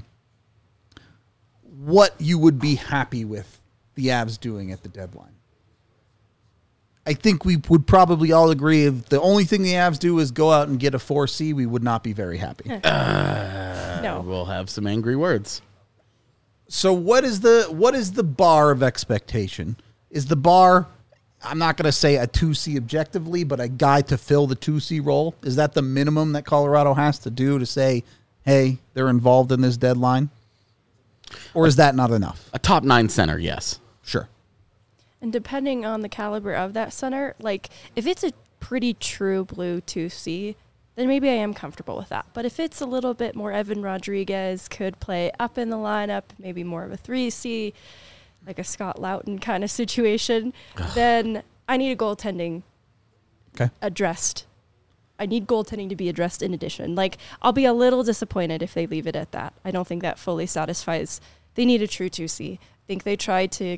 what you would be happy with the Avs doing at the deadline. I think we would probably all agree if the only thing the Avs do is go out and get a four C, we would not be very happy. Uh, No. We'll have some angry words. So what is the what is the bar of expectation? Is the bar, I'm not going to say a two C objectively, but a guy to fill the two C role? Is that the minimum that Colorado has to do to say, hey, they're involved in this deadline? Or is that not enough? A top nine center, yes. Sure. And depending on the caliber of that center, like if it's a pretty true blue two C, then maybe I am comfortable with that. But if it's a little bit more Evan Rodriguez, could play up in the lineup, maybe more of a three C, like a Scott Loughton kind of situation, then I need a goaltending Okay. addressed. I need goaltending to be addressed in addition. Like, I'll be a little disappointed if they leave it at that. I don't think that fully satisfies. They need a true two C. I think they tried to...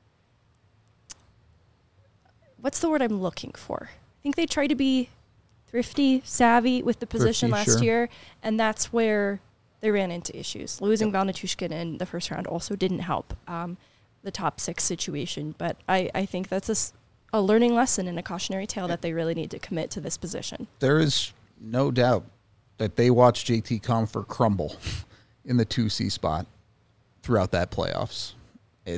What's the word I'm looking for? I think they tried to be thrifty, savvy with the position Thrifty, last sure. year, and that's where they ran into issues. Losing Val Nichushkin in the first round also didn't help um, the top six situation, but I, I think that's a, s- a learning lesson and a cautionary tale that they really need to commit to this position. There is no doubt that they watched J T Compher crumble in the two C spot throughout that playoffs. It,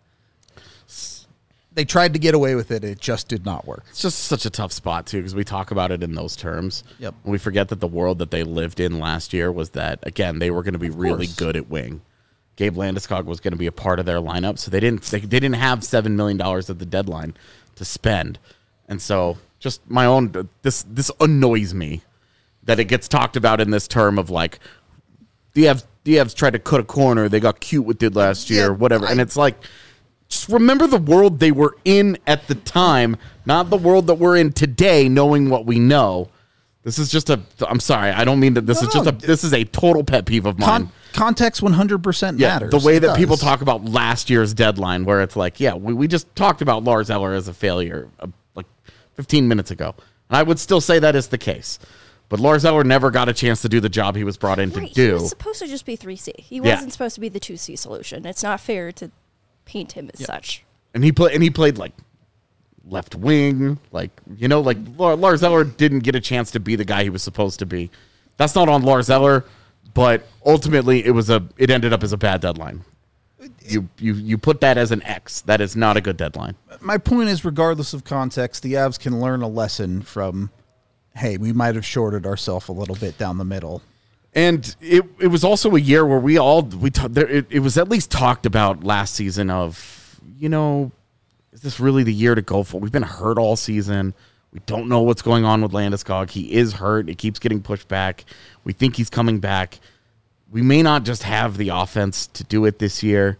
they tried to get away with it. It just did not work. It's just such a tough spot, too, because we talk about it in those terms. Yep. And we forget that the world that they lived in last year was that, again, they were going to be really course. good at wing. Gabe Landeskog was going to be a part of their lineup, so they didn't they, they didn't have seven million dollars at the deadline to spend. And so just my own, this this annoys me that it gets talked about in this term of like, the Avs, the Avs tried to cut a corner, they got cute with it last year, Yeah, whatever. I- and it's like, just remember the world they were in at the time, not the world that we're in today, knowing what we know. This is just a, I'm sorry, I don't mean that this No, is just a, no. this is a total pet peeve of mine. Con- context one hundred percent Yeah, matters. the way It that people does. talk about last year's deadline, where it's like, yeah, we, we just talked about Lars Eller as a failure uh, like fifteen minutes ago. And I would still say that is the case. But Lars Eller never got a chance to do the job he was brought in to Right, he do. was supposed to just be three C. He Yeah. wasn't supposed to be the two C solution. It's not fair to paint him as such. And he played and he played like left wing, like you know, like Lar- Lars Eller didn't get a chance to be the guy he was supposed to be. That's not on Lars Eller, but ultimately it was a it ended up as a bad deadline. You you you put that as an X. That is not a good deadline. My point is, regardless of context, the Avs can learn a lesson from, hey, we might have shorted ourselves a little bit down the middle. And it it was also a year where we all we ta- there, it, it was at least talked about last season of, you know, is this really the year to go for? We've been hurt all season. We don't know what's going on with Landeskog. He is hurt. It keeps getting pushed back. We think he's coming back. We may not just have the offense to do it this year.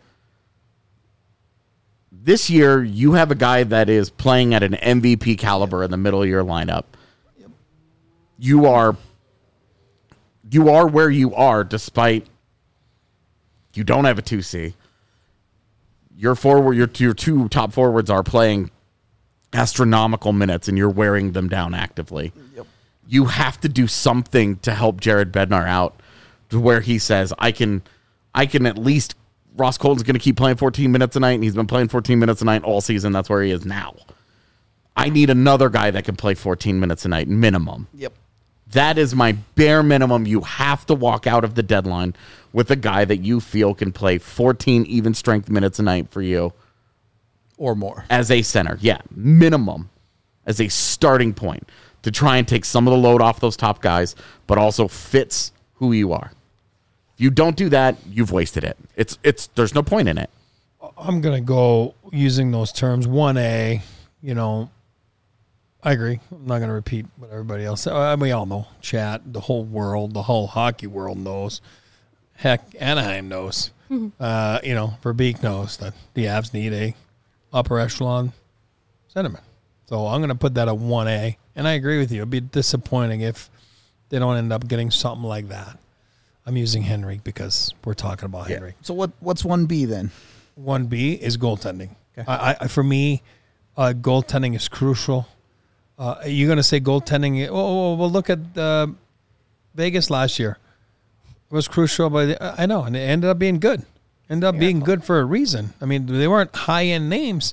This year, you have a guy that is playing at an M V P caliber in the middle of your lineup. You are you are where you are despite you don't have a two C. Your forward, your, your two top forwards are playing astronomical minutes, and you're wearing them down actively. Yep. You have to do something to help Jared Bednar out, to where he says, "I can, I can at least." Ross Colton's going to keep playing fourteen minutes a night, and he's been playing fourteen minutes a night all season. That's where he is now. I need another guy that can play fourteen minutes a night minimum. Yep. That is my bare minimum. You have to walk out of the deadline with a guy that you feel can play fourteen even strength minutes a night for you Or more. as a center. Yeah, minimum as a starting point to try and take some of the load off those top guys, but also fits who you are. If you don't do that, you've wasted it. It's it's there's no point in it. I'm going to go using those terms. one A, you know, I agree. I'm not going to repeat what everybody else said. Uh, We all know. Chat, the whole world, the whole hockey world knows. Heck, Anaheim knows. Uh, you know, Verbeek knows that the Avs need a upper echelon centerman. So I'm going to put that at one A. And I agree with you. It'd be disappointing if they don't end up getting something like that. I'm using Henrik because we're talking about Henrik. So what? What's one B then? One B is goaltending. Okay. I, I, for me, uh, goaltending is crucial. Uh, you're going to say goaltending. Oh, oh, well, look at uh, Vegas last year. It was crucial, but I know, and it ended up being good. Ended up being good for a reason. I mean, they weren't high-end names,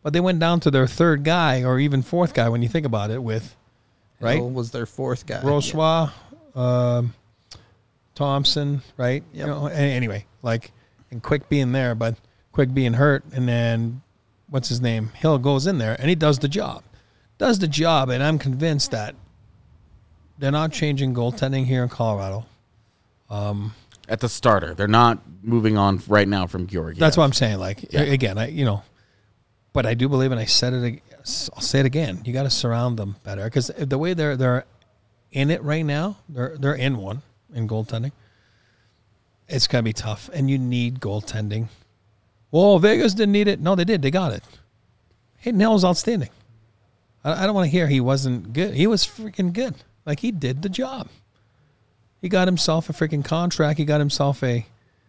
But they went down to their third guy or even fourth guy when you think about it with, right? Hill was their fourth guy. Rochois, um, Thompson, right? Yep. You know, a- anyway, like, and Quick being there, but Quick being hurt, and then what's his name? Hill goes in there and he does the job, does the job, and I'm convinced that they're not changing goaltending here in Colorado. At the starter, they're not moving on right now from Georgiev. That's what I'm saying. Like Yeah. again, I you know, but I do believe, and I said it. ag- I'll say it again. You got to surround them better because the way they're they're in it right now, they're they're in one in goaltending. It's gonna be tough, and you need goaltending. Well, Vegas didn't need it. No, they did. They got it. Hayden Hill was outstanding. I, I don't want to hear he wasn't good. He was freaking good. Like he did the job. He got himself a freaking contract. He got himself a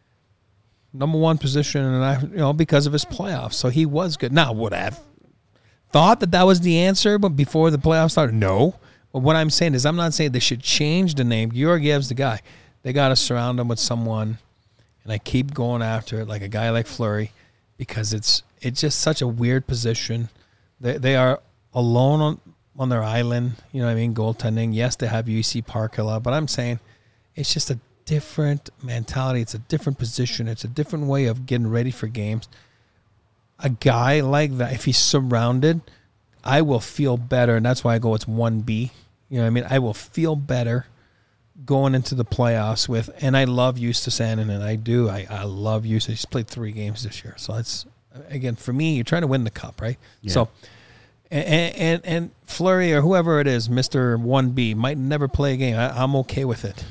number one position, and I, you know, because of his playoffs. So he was good. Now, would I have thought that that was the answer, but before the playoffs started, no. But what I'm saying is, I'm not saying they should change the name. Georgiev's the guy. They got to surround him with someone, and I keep going after it, like a guy like Fleury, because it's it's just such a weird position. They they are alone on on their island. You know what I mean? Goaltending. Yes, they have U C Parkala, but I'm saying it's just a different mentality. It's a different position. It's a different way of getting ready for games. A guy like that, if he's surrounded, I will feel better, and that's why I go it's one B. You know what I mean? I will feel better going into the playoffs with, and I love Eustace Annan, and I do. I, I love Eustace. He's played three games this year. So it's, again, for me, you're trying to win the cup, right? Yeah. So, and, and, and Fleury or whoever it is, Mister one B, might never play a game. I, I'm okay with it.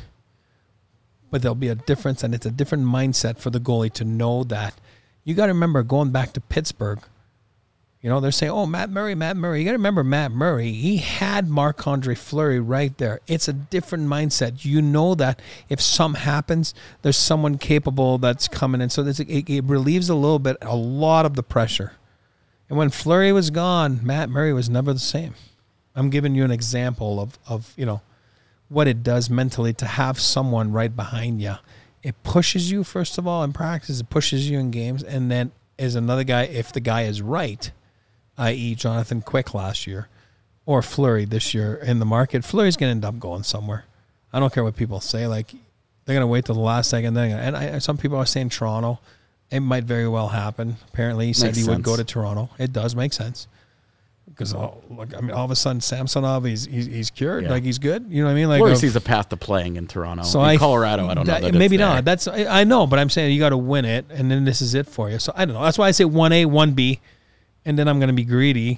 But there'll be a difference, and it's a different mindset for the goalie to know that. You got to remember, going back to Pittsburgh, you know, they're saying, oh, Matt Murray, Matt Murray. You got to remember Matt Murray. He had Marc-Andre Fleury right there. It's a different mindset. You know that if something happens, there's someone capable that's coming in. So there's, it, it relieves a little bit, a lot of the pressure. And when Fleury was gone, Matt Murray was never the same. I'm giving you an example of, of you know, what it does mentally to have someone right behind you. It pushes you, first of all, in practice. It pushes you in games. And then as another guy, if the guy is right, that is. Jonathan Quick last year, or Fleury this year in the market, Fleury's going to end up going somewhere. I don't care what people say. Like, they're going to wait till the last second. Then, and I, some people are saying Toronto. It might very well happen. Apparently, he said Makes he would sense. go to Toronto. It does make sense. Because, oh, look, I mean, all of a sudden, Samsonov, he's he's, he's cured. Yeah. Like, he's good. You know what I mean? Like, Fleury of- sees a path to playing in Toronto. so in I, Colorado, I don't know. that- That it's maybe there. not. That's I, I know, but I'm saying you got to win it, and then this is it for you. So I don't know. That's why I say one A, one B, and then I'm going to be greedy.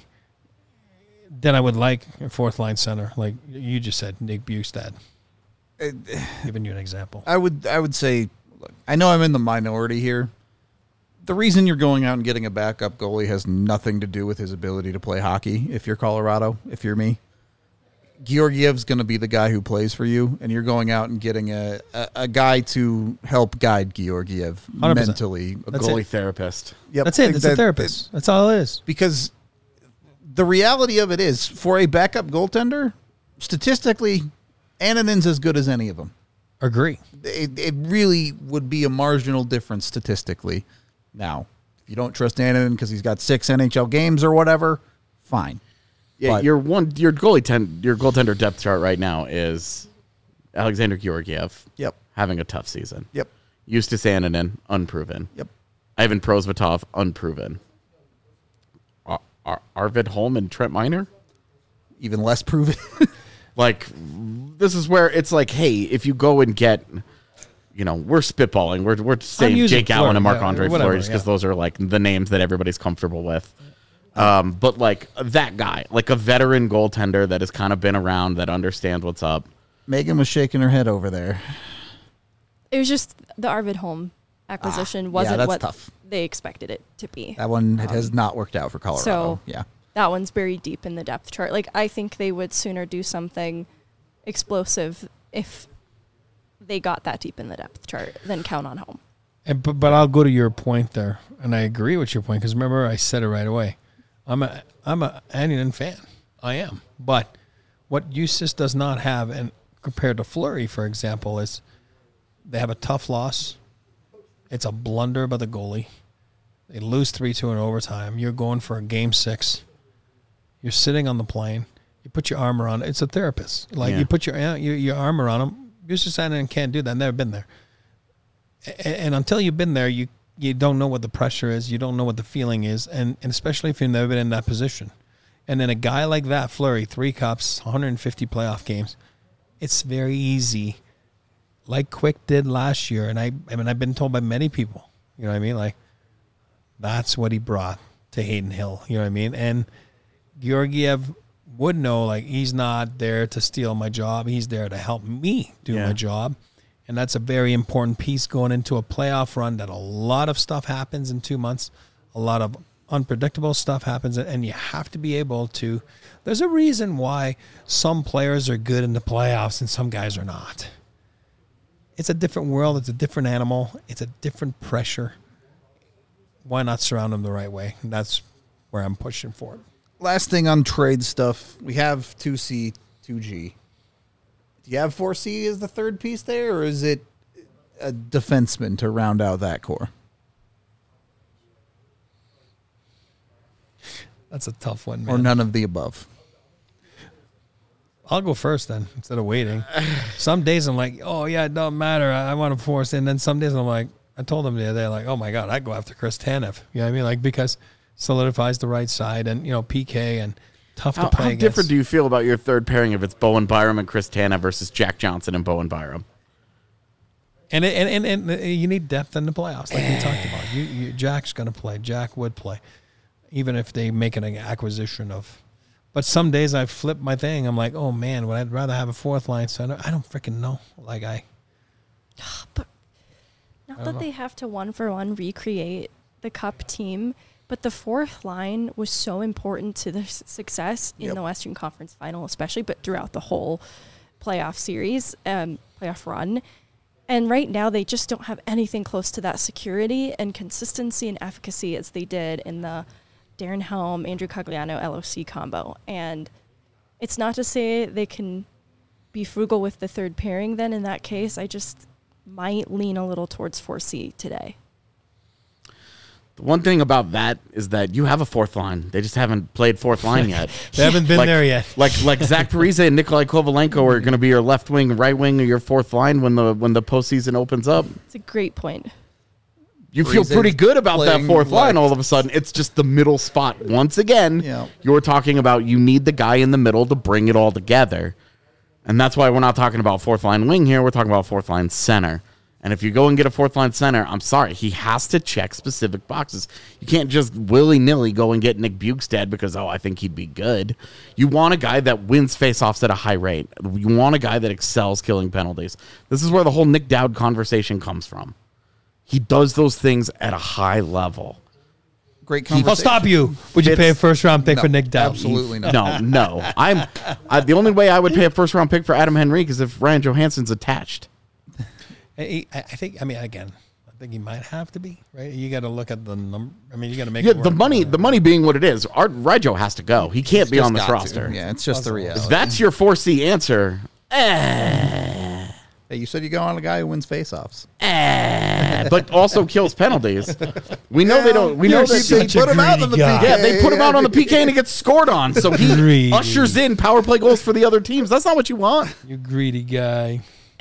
Then I would like a fourth line center, like you just said, Nick Bustad. Giving you an example. I would I would say, look, I know I'm in the minority here. The reason you're going out and getting a backup goalie has nothing to do with his ability to play hockey. If you're Colorado, if you're me, Georgiev's going to be the guy who plays for you, and you're going out and getting a, a, a guy to help guide Georgiev one hundred percent. mentally. A That's goalie it. therapist. Yep. That's it. It's That- a therapist. That's all it is. because the reality of it is, for a backup goaltender, statistically, Annanen's as good as any of them. Agree. It, it really would be a marginal difference statistically. Now, if you don't trust Annanen because he's got six N H L games or whatever, fine. Yeah, But- your one your goalie ten, your goaltender depth chart right now is Alexander Georgiev Yep. having a tough season. Yep. Eustace Annanen, unproven. Yep. Ivan Prosvetov, unproven. Ar- Ar- Arvid Holm and Trent Miner? Even less proven. Like, this is where it's like, hey, if you go and get, you know, we're spitballing. We're we're saying using Jake Allen Fleury, and yeah, Marc-Andre whatever, Fleury just because yeah. those are, like, the names that everybody's comfortable with. Um, but, like, that guy, like a veteran goaltender that has kind of been around, that understands what's up. Megan was shaking her head over there. It was just the Arvid Holm acquisition Ah, yeah, wasn't that's what tough. they expected it to be. That one it has not worked out for Colorado. so- yeah. That one's buried deep in the depth chart. Like, I think they would sooner do something explosive if they got that deep in the depth chart than count on Holm. And, but, but I'll go to your point there, and I agree with your point because remember I said it right away. I'm a I'm a Annunen fan. I am. But what Eustace does not have, and compared to Fleury, for example, is they have a tough loss. It's a blunder by the goalie. They lose three two in overtime. You're going for a game six. You're sitting on the plane. You put your arm around it. It's a therapist. Like, Yeah. you put your, your your arm around them. You're just standing and can't do that. I've never been there. And, and until you've been there, you, you don't know what the pressure is. You don't know what the feeling is. And, and especially if you've never been in that position. And then a guy like that, Fleury, three cups, one hundred fifty playoff games, it's very easy, like Quick did last year. And I, I mean, I've been told by many people, you know what I mean? Like, that's what he brought to Hayden Hill, you know what I mean? And Georgiev would know, like, he's not there to steal my job. He's there to help me do Yeah. my job. And that's a very important piece going into a playoff run, that a lot of stuff happens in two months. A lot of unpredictable stuff happens, and you have to be able to. There's a reason why some players are good in the playoffs and some guys are not. It's a different world. It's a different animal. It's a different pressure. Why not surround them the right way? And that's where I'm pushing for it. Last thing on trade stuff, we have two C, two G. Do you have four C as the third piece there, or is it a defenseman to round out that core? That's a tough one, man. Or none of the above? I'll go first then, instead of waiting. Some days I'm like, oh, yeah, it doesn't matter. I, I want to force it. And then some days I'm like, I told them the other day, like, oh, my God, I'd go after Chris Tanev. You know what I mean? Like, because solidifies the right side and, you know, P K and tough How, to play how against. different do you feel about your third pairing if it's Bowen Byram and Chris Tanev versus Jack Johnson and Bowen Byram? And, it, and, and and you need depth in the playoffs, like we talked about. You, you Jack's going to play. Jack would play, even if they make an acquisition of. But some days I flip my thing. I'm like, oh man, would I'd rather have a fourth line center? I don't freaking know. Like I, But not that know. they have to one for one recreate the Cup team, but the fourth line was so important to their s- success in Yep. the Western Conference Final, especially, but throughout the whole playoff series, um, playoff run. And right now, they just don't have anything close to that security and consistency and efficacy as they did in the Darren Helm, Andrew Cogliano, L O C combo. And it's not to say they can be frugal with the third pairing then in that case. I just might lean a little towards four C today. The one thing about that is that you have a fourth line. They just haven't played fourth line yet. they haven't been like, there yet. Like like Zach Parise and Nikolai Kovalenko are going to be your left wing, right wing, or your fourth line when the when the postseason opens up. It's a great point. You feel Parise's pretty good about that playing fourth line left. all of a sudden. It's just the middle spot. Once again, Yeah. you're talking about you need the guy in the middle to bring it all together. And that's why we're not talking about fourth line wing here. We're talking about fourth line center. And if you go and get a fourth line center, I'm sorry, he has to check specific boxes. You can't just willy-nilly go and get Nick Bukestad because, oh, I think he'd be good. You want a guy that wins faceoffs at a high rate. You want a guy that excels killing penalties. This is where the whole Nick Dowd conversation comes from. He does those things at a high level. Great conversation. I'll stop you. Would you Fits- pay a first round pick No, for Nick Dowd? absolutely not. No, no. I'm I, the only way I would pay a first round pick for Adam Henrique is if Ryan Johansson's attached. I, I think. I mean, again, I think he might have to be right. You got to look at the number. I mean, you got to make Yeah, it the work. money, the money being what it is. Art Rijo has to go. He can't be Just on this got to. roster. Yeah, it's just the reality. If that's your four C answer, Hey, you said you go on a guy who wins faceoffs. eh, but also kills penalties. We know they don't. We You're know such that a put him out on the greedy guy. P K. yeah, they put him out on the P K and he gets scored on. So he Greedy. ushers in power play goals for the other teams. That's not what you want. You greedy guy.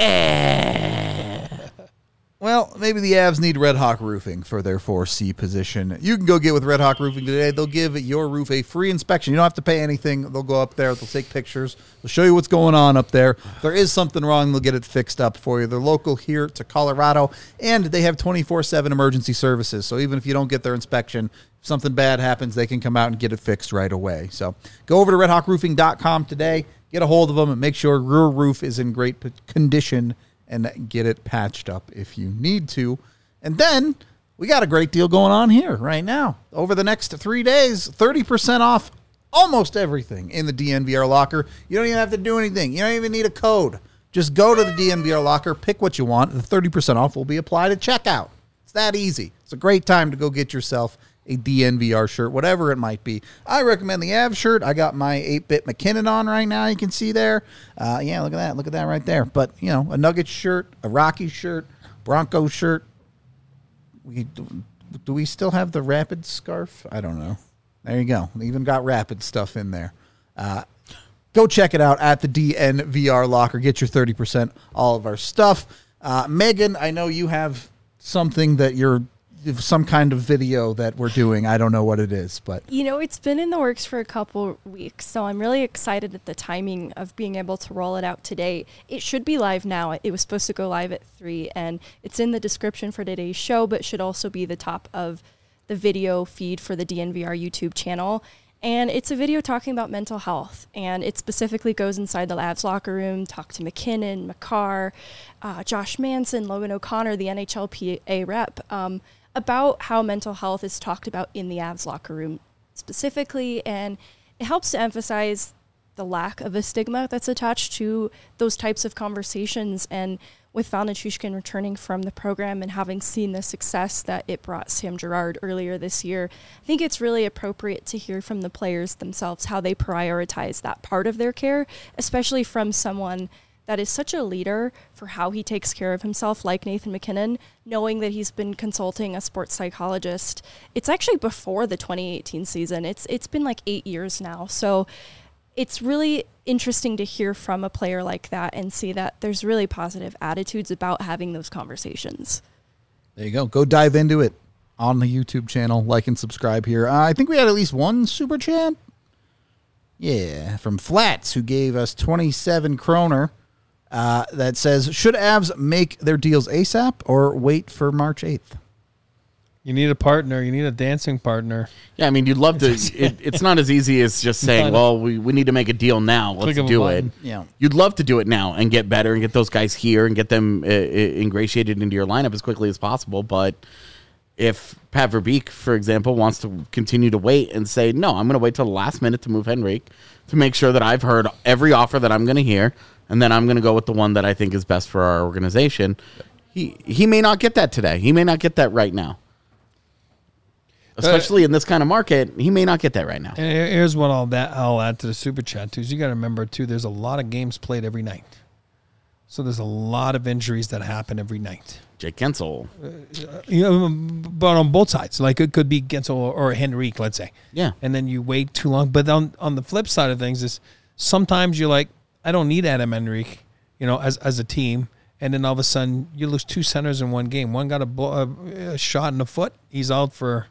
Well, maybe the Avs need Red Hawk Roofing for their four C position. You can go get with Red Hawk Roofing today. They'll give your roof a free inspection. You don't have to pay anything. They'll go up there. They'll take pictures. They'll show you what's going on up there. If there is something wrong, they'll get it fixed up for you. They're local here to Colorado, and they have twenty-four seven emergency services. So even if you don't get their inspection, if something bad happens, they can come out and get it fixed right away. So go over to red hawk roofing dot com today. Get a hold of them and make sure your roof is in great p- condition and get it patched up if you need to. And then we got a great deal going on here right now. Over the next three days, thirty percent off almost everything in the D N V R locker. You don't even have to do anything. You don't even need a code. Just go to the D N V R locker, pick what you want. The thirty percent off will be applied at checkout. It's that easy. It's a great time to go get yourself a D N V R shirt, whatever it might be. I recommend the Avs shirt. I got my eight-bit McKinnon on right now. You can see there. Uh, yeah, look at that. Look at that right there. But, you know, a Nuggets shirt, a Rockies shirt, Broncos shirt. We do we still have the Rapid scarf? I don't know. There you go. They even got Rapid stuff in there. Uh, go check it out at the D N V R Locker. Get your thirty percent all of our stuff. Uh, Megan, I know you have something that you're, some kind of video that we're doing. I don't know what it is, but. You know, it's been in the works for a couple weeks, so I'm really excited at the timing of being able to roll it out today. It should be live now. It was supposed to go live at three, and it's in the description for today's show, but should also be the top of the video feed for the D N V R YouTube channel. And it's a video talking about mental health, and it specifically goes inside the Avs locker room, talk to McKinnon, Makar, uh, Josh Manson, Logan O'Connor, the N H L P A rep, um, about how mental health is talked about in the Avs locker room specifically, and it helps to emphasize the lack of a stigma that's attached to those types of conversations. And with Val Nichushkin returning from the program and having seen the success that it brought Sam Girard earlier this year, I think it's really appropriate to hear from the players themselves how they prioritize that part of their care, especially from someone that is such a leader for how he takes care of himself, like Nathan MacKinnon, knowing that he's been consulting a sports psychologist. It's actually before the twenty eighteen season. It's it's been like eight years now. So it's really interesting to hear from a player like that and see that there's really positive attitudes about having those conversations. There you go. Go dive into it on the YouTube channel. Like and subscribe here. Uh, I think we had at least one super chat. Yeah, from Flats, who gave us twenty-seven kroner. Uh, that says, should Avs make their deals ASAP or wait for March eighth? You need a partner. You need a dancing partner. Yeah, I mean, you'd love to. It, it's not as easy as just saying, well, we, we need to make a deal now. Let's do it. Yeah. You'd love to do it now and get better and get those guys here and get them uh, ingratiated into your lineup as quickly as possible. But if Pat Verbeek, for example, wants to continue to wait and say, no, I'm going to wait till the last minute to move Henrique to make sure that I've heard every offer that I'm going to hear, and then I'm going to go with the one that I think is best for our organization, he, he may not get that today. He may not get that right now. Especially uh, in this kind of market, he may not get that right now. And here's what I'll, that, I'll add to the super chat, too. Is you got to remember, too, there's a lot of games played every night. So there's a lot of injuries that happen every night. Jake Gensel. Uh, you know, but on both sides. Like, it could be Gensel or, or Henrique, let's say. Yeah. And then you wait too long. But on, on the flip side of things is sometimes you're like, I don't need Adam Henrique, you know, as as a team. And then all of a sudden, you lose two centers in one game. One got a, blow, a, a shot in the foot. He's out for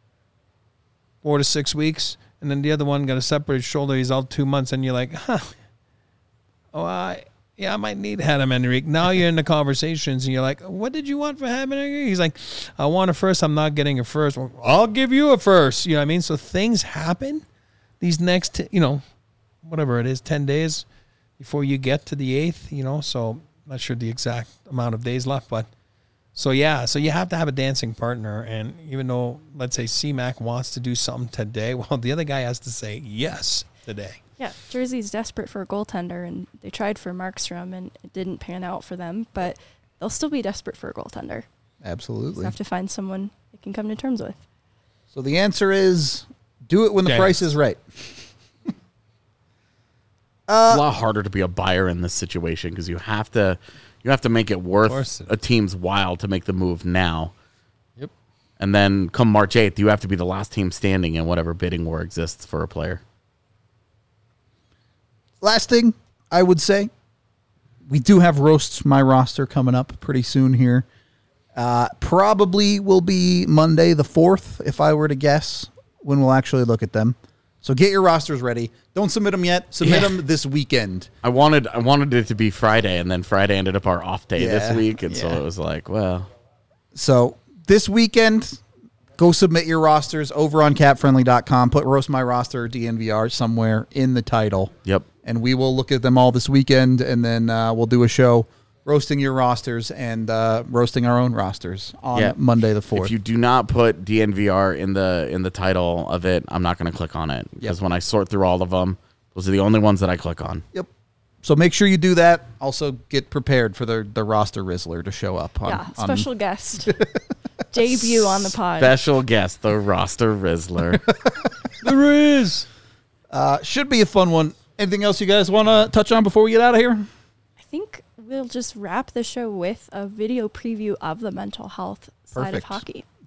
four to six weeks. And then the other one got a separated shoulder. He's out two months. And you're like, huh. Oh, I, yeah, I might need Adam Henrique. Now you're in the conversations. And you're like, what did you want for Adam Henrique? He's like, I want a first. I'm not getting a first. Well, I'll give you a first. You know what I mean? So things happen these next, you know, whatever it is, ten days before you get to the eighth, you know, so I'm not sure the exact amount of days left, but so yeah, so you have to have a dancing partner, and even though, let's say, C-Mac wants to do something today, well, the other guy has to say yes today. Yeah, Jersey's desperate for a goaltender, and they tried for Markstrom, and it didn't pan out for them, but they'll still be desperate for a goaltender. Absolutely. Just have to find someone they can come to terms with. So the answer is, do it when the Yeah. price is right. It's a lot harder to be a buyer in this situation because you have to you have to make it worth a team's while to make the move now. Yep. And then come March eighth, you have to be the last team standing in whatever bidding war exists for a player. Last thing I would say, we do have Roast My Roster coming up pretty soon here. Uh, probably will be Monday the fourth, if I were to guess, when we'll actually look at them. So get your rosters ready. Don't submit them yet. Submit Yeah. them this weekend. I wanted I wanted it to be Friday, and then Friday ended up our off day Yeah, this week, and so yeah. it was like, well, So this weekend, go submit your rosters over on cap friendly dot com. Put Roast My Roster or D N V R somewhere in the title. yep. And we will look at them all this weekend, and then uh, we'll do a show roasting your rosters and uh, roasting our own rosters on Yeah. Monday the fourth. If you do not put D N V R in the in the title of it, I'm not going to click on it because Yep. when I sort through all of them, those are the only ones that I click on. Yep. So make sure you do that. Also, get prepared for the the roster Rizzler to show up. On, yeah, on- special guest. Debut on the pod. Special guest, the roster Rizzler. There is. uh, should be a fun one. Anything else you guys want to touch on before we get out of here? I think we'll just wrap the show with a video preview of the mental health side Perfect. of hockey.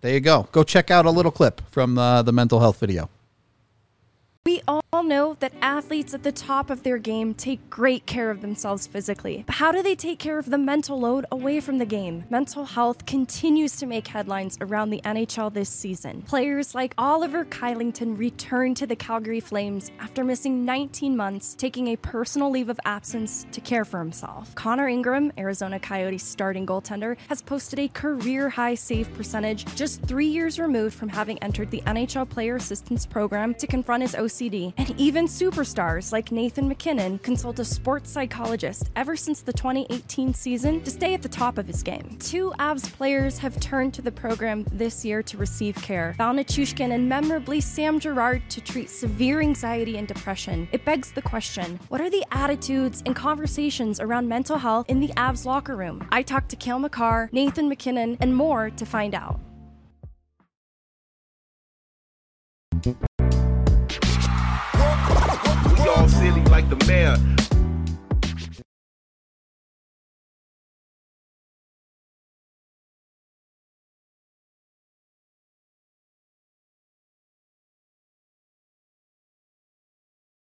there you go. Go check out a little clip from uh, the mental health video. We all know that athletes at the top of their game take great care of themselves physically. But how do they take care of the mental load away from the game? Mental health continues to make headlines around the N H L this season. Players like Oliver Kylington returned to the Calgary Flames after missing nineteen months, taking a personal leave of absence to care for himself. Connor Ingram, Arizona Coyotes starting goaltender, has posted a career-high save percentage just three years removed from having entered the N H L Player Assistance Program to confront his O C D. And even superstars like Nathan McKinnon consult a sports psychologist ever since the twenty eighteen season to stay at the top of his game. Two Avs players have turned to the program this year to receive care. Val Nichushkin and memorably Sam Girard to treat severe anxiety and depression. It begs the question, what are the attitudes and conversations around mental health in the Avs locker room? I talked to Cale Makar, Nathan McKinnon, and more to find out. We all silly like the mayor.